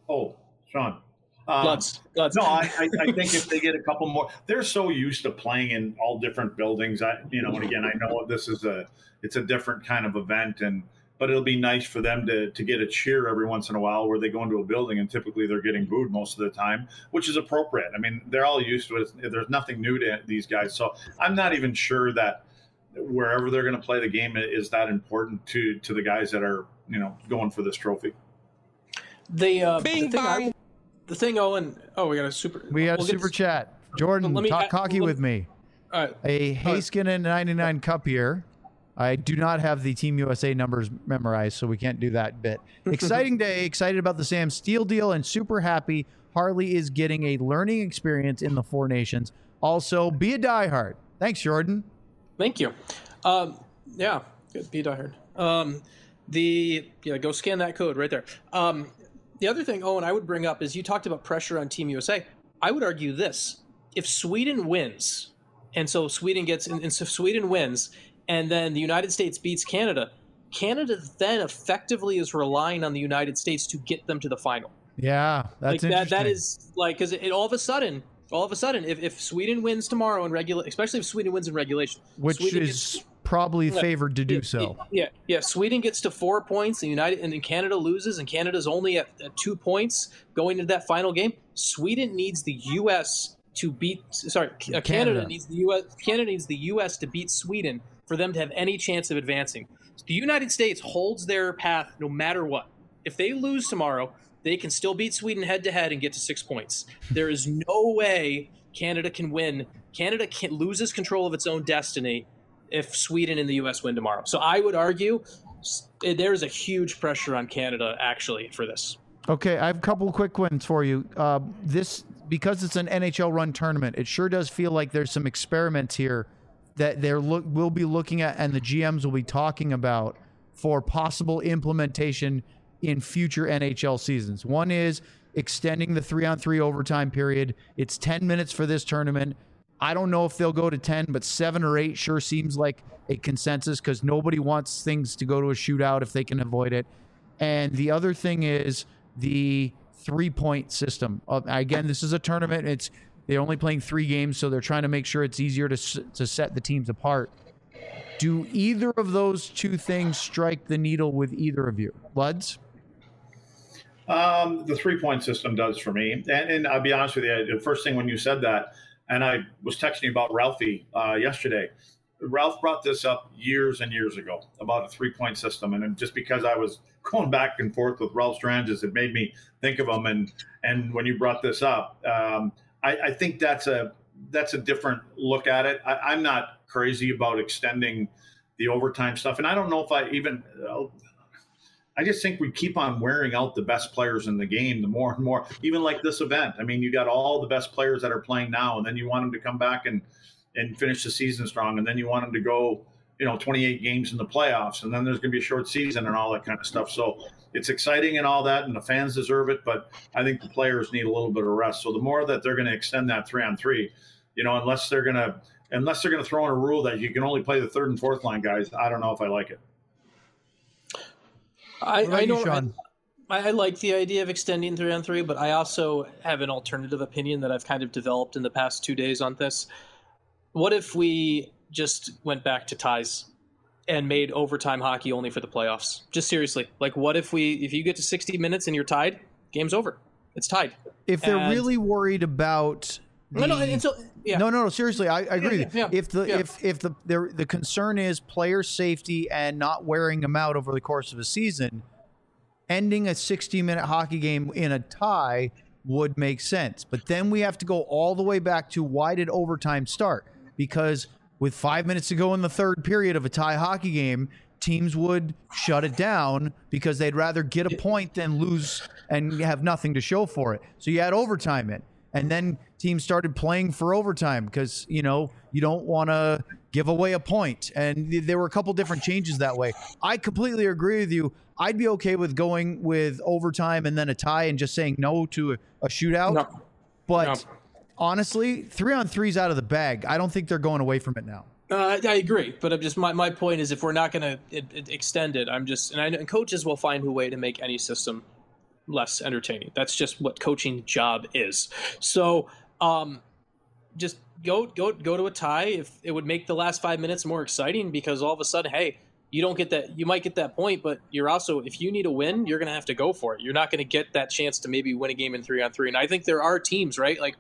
Oh, Sean. Um, Bloods. Bloods. No, I, I, I think if they get a couple more, they're so used to playing in all different buildings. I, you know, and again, I know this is a, it's a different kind of event, and but it'll be nice for them to to get a cheer every once in a while where they go into a building and typically they're getting booed most of the time, which is appropriate. I mean, they're all used to it. There's nothing new to these guys, so I'm not even sure that wherever they're going to play the game is that important to to the guys that are, you know, going for this trophy. The uh, Bing the thing, I, bong. the thing, Owen. Oh, we got a super. We got a we'll get super to- chat. Jordan, Let me- talk I- hockey let- with me. All right. A Haskinen ninety-nine cup here. I do not have the Team U S A numbers memorized, so we can't do that bit. Exciting day. Excited about the Sam Steele deal and super happy Harley is getting a learning experience in the Four Nations. Also, be a diehard. Thanks, Jordan. Thank you. Um, yeah, good. Be diehard. Um, the yeah, go scan that code right there. Um, the other thing, Owen, I would bring up is you talked about pressure on Team U S A. I would argue this: if Sweden wins, and so Sweden gets, and so Sweden wins, and then the United States beats Canada, Canada then effectively is relying on the United States to get them to the final. Yeah, that's like that. interesting. That is like because it, it all of a sudden. All of a sudden, if, if Sweden wins tomorrow in regula- especially if Sweden wins in regulation, Which Sweden is gets- probably Yeah, favored to do yeah, so. Yeah, yeah. Sweden gets to four points, and United and then Canada loses, and Canada's only at, at two points going into that final game. Sweden needs the U S to beat. Sorry, uh, Canada. Canada. needs the U S. Canada needs the U S to beat Sweden for them to have any chance of advancing. The United States holds their path no matter what. If they lose tomorrow, they can still beat Sweden head to head and get to six points. There is no way Canada can win. Canada can, loses control of its own destiny if Sweden and the U S win tomorrow. So I would argue s- there's a huge pressure on Canada actually for this. Okay, I have a couple quick ones for you. Uh, this because it's an N H L run tournament, it sure does feel like there's some experiments here that they're look we'll be looking at, and the G Ms will be talking about for possible implementation in future N H L seasons. One is extending the three-on-three overtime period. It's ten minutes for this tournament. I don't know if they'll go to ten, but seven or eight sure seems like a consensus because nobody wants things to go to a shootout if they can avoid it. And the other thing is the three-point system. Uh, again, this is a tournament. It's they're only playing three games, so they're trying to make sure it's easier to s- to set the teams apart. Do either of those two things strike the needle with either of you? Luds? Um, the three-point system does for me. And, and I'll be honest with you, the first thing when you said that, and I was texting you about Ralphie uh, yesterday, Ralph brought this up years and years ago about a three-point system. And just because I was going back and forth with Ralph Stranges, it made me think of him. And and when you brought this up, um, I, I think that's a that's a different look at it. I, I'm not crazy about extending the overtime stuff. And I don't know if I even uh, – I just think we keep on wearing out the best players in the game the more and more, even like this event. I mean, you got all the best players that are playing now, and then you want them to come back and, and finish the season strong. And then you want them to go, you know, twenty-eight games in the playoffs, and then there's going to be a short season and all that kind of stuff. So it's exciting and all that, and the fans deserve it, but I think the players need a little bit of rest. So the more that they're going to extend that three on three, you know, unless they're going to, unless they're going to throw in a rule that you can only play the third and fourth line guys, I don't know if I like it. I, What about I you, know Sean? I, I like the idea of extending three on three, but I also have an alternative opinion that I've kind of developed in the past two days on this. What if we just went back to ties and made overtime hockey only for the playoffs? Just seriously, like what if we if you get to sixty minutes and you're tied, game's over. It's tied. If they're And- really worried about No, no, the- and so yeah. No, no, no. Seriously, I, I agree. Yeah, with you. yeah, if the yeah. if if the, the the concern is player safety and not wearing them out over the course of a season, ending a sixty minute hockey game in a tie would make sense. But then we have to go all the way back to why did overtime start? Because with five minutes to go in the third period of a tie hockey game, teams would shut it down because they'd rather get a point than lose and have nothing to show for it. So you had overtime in. And then teams started playing for overtime because, you know, you don't want to give away a point. And th- there were a couple different changes that way. I completely agree with you. I'd be okay with going with overtime and then a tie and just saying no to a, a shootout. No. But No. honestly, three on three's out of the bag. I don't think they're going away from it now. Uh, I agree, but I'm just my, my point is if we're not going to extend it, I'm just and, I, and coaches will find a way to make any system less entertaining. That's just what coaching job is. So um, just go go go to a tie. If it would make the last five minutes more exciting, because all of a sudden, hey, you don't get that. You might get that point, but you're also, if you need a win, you're going to have to go for it. You're not going to get that chance to maybe win a game in three on three. And I think there are teams, right? Like,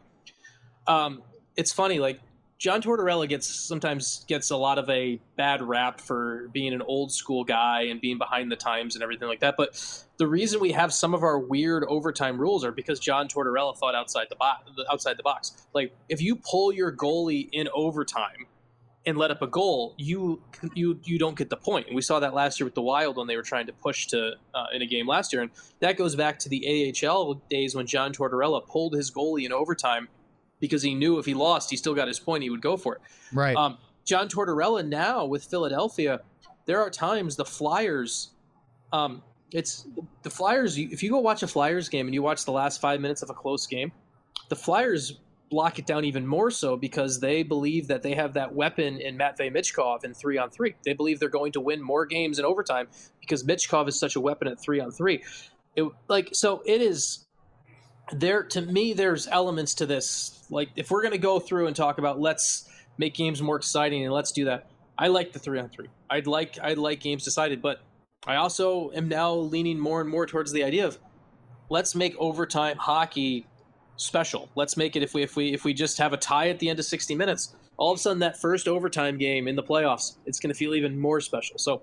um, it's funny, like John Tortorella gets sometimes gets a lot of a bad rap for being an old school guy and being behind the times and everything like that. But the reason we have some of our weird overtime rules are because John Tortorella thought outside the box. Outside the box, like if you pull your goalie in overtime and let up a goal, you you you don't get the point. And we saw that last year with the Wild when they were trying to push to uh, in a game last year, and that goes back to the A H L days when John Tortorella pulled his goalie in overtime because he knew if he lost, he still got his point, he would go for it. Right. Um, John Tortorella now with Philadelphia, there are times the Flyers, um, it's the Flyers. If you go watch a Flyers game and you watch the last five minutes of a close game, the Flyers block it down even more so because they believe that they have that weapon in Matvei Michkov in three on three. They believe they're going to win more games in overtime because Michkov is such a weapon at three on three. It, like, so it is there. To me, there's elements to this. Like, if we're going to go through and talk about let's make games more exciting and let's do that, I like the three on three. I'd like I'd like games decided, but I also am now leaning more and more towards the idea of let's make overtime hockey special. Let's make it, if we if we if we just have a tie at the end of sixty minutes, all of a sudden that first overtime game in the playoffs, it's going to feel even more special. So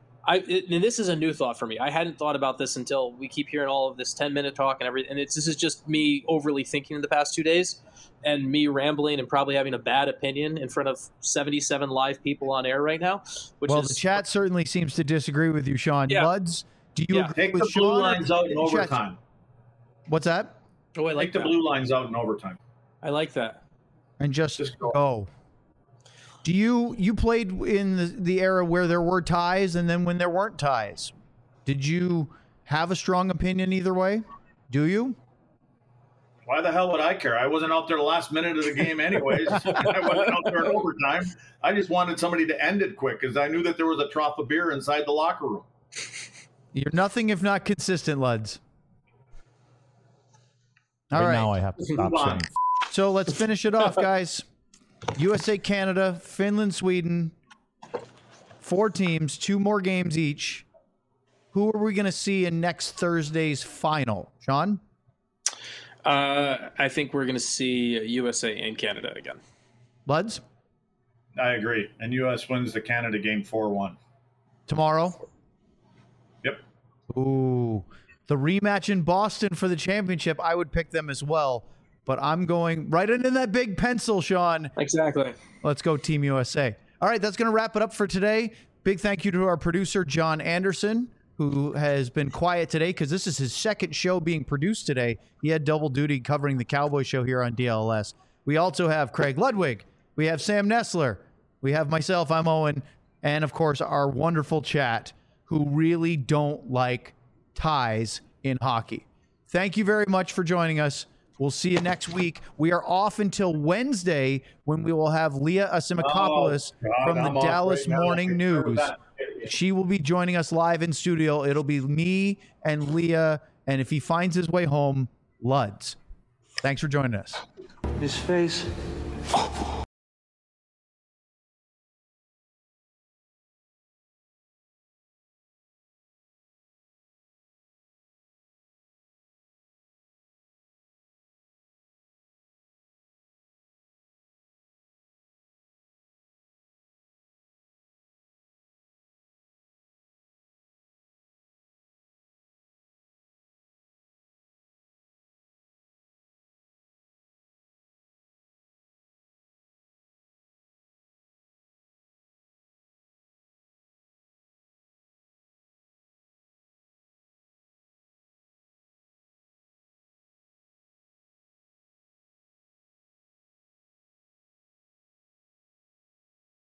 I it, and this is a new thought for me. I hadn't thought about this until we keep hearing all of this ten minute talk and everything. And it's this is just me overly thinking in the past two days and me rambling and probably having a bad opinion in front of seventy-seven live people on air right now. Which well, is, the chat certainly seems to disagree with you, Sean. Yeah. Luds, do you Yeah. agree Take with the blue Sean? lines out in Chat- overtime. What's that? oh, I like Take the that. blue lines out in overtime. I like that. And just, Just go. go. Do you you played in the, the era where there were ties and then when there weren't ties? Did you have a strong opinion either way? Do you? Why the hell would I care? I wasn't out there the last minute of the game anyways. I wasn't out there in overtime. I just wanted somebody to end it quick because I knew that there was a trough of beer inside the locker room. You're nothing if not consistent, Luds. All Right right. now I have to stop Move on. saying. So let's finish it off, guys. U S A, Canada, Finland, Sweden. Four teams, two more games each. Who are we going to see in next Thursday's final? Sean? Uh, I think we're going to see U S A and Canada again. Luds? I agree. And U S wins the Canada game four one. Tomorrow? Yep. Ooh. The rematch in Boston for the championship, I would pick them as well. But I'm going right into that big pencil, Sean. Exactly. Let's go Team U S A. All right, that's going to wrap it up for today. Big thank you to our producer, John Anderson, who has been quiet today because this is his second show being produced today. He had double duty covering the Cowboy Show here on D L S. We also have Craig Ludwig. We have Sam Nessler. We have myself, I'm Owen. And, of course, our wonderful chat who really don't like ties in hockey. Thank you very much for joining us. We'll see you next week. We are off until Wednesday when we will have Leah Asimakopoulos Oh, God, from the I'm off Dallas right now. Morning Looking forward to News. that. She will be joining us live in studio. It'll be me and Leah, and if he finds his way home, Luds. Thanks for joining us. His face.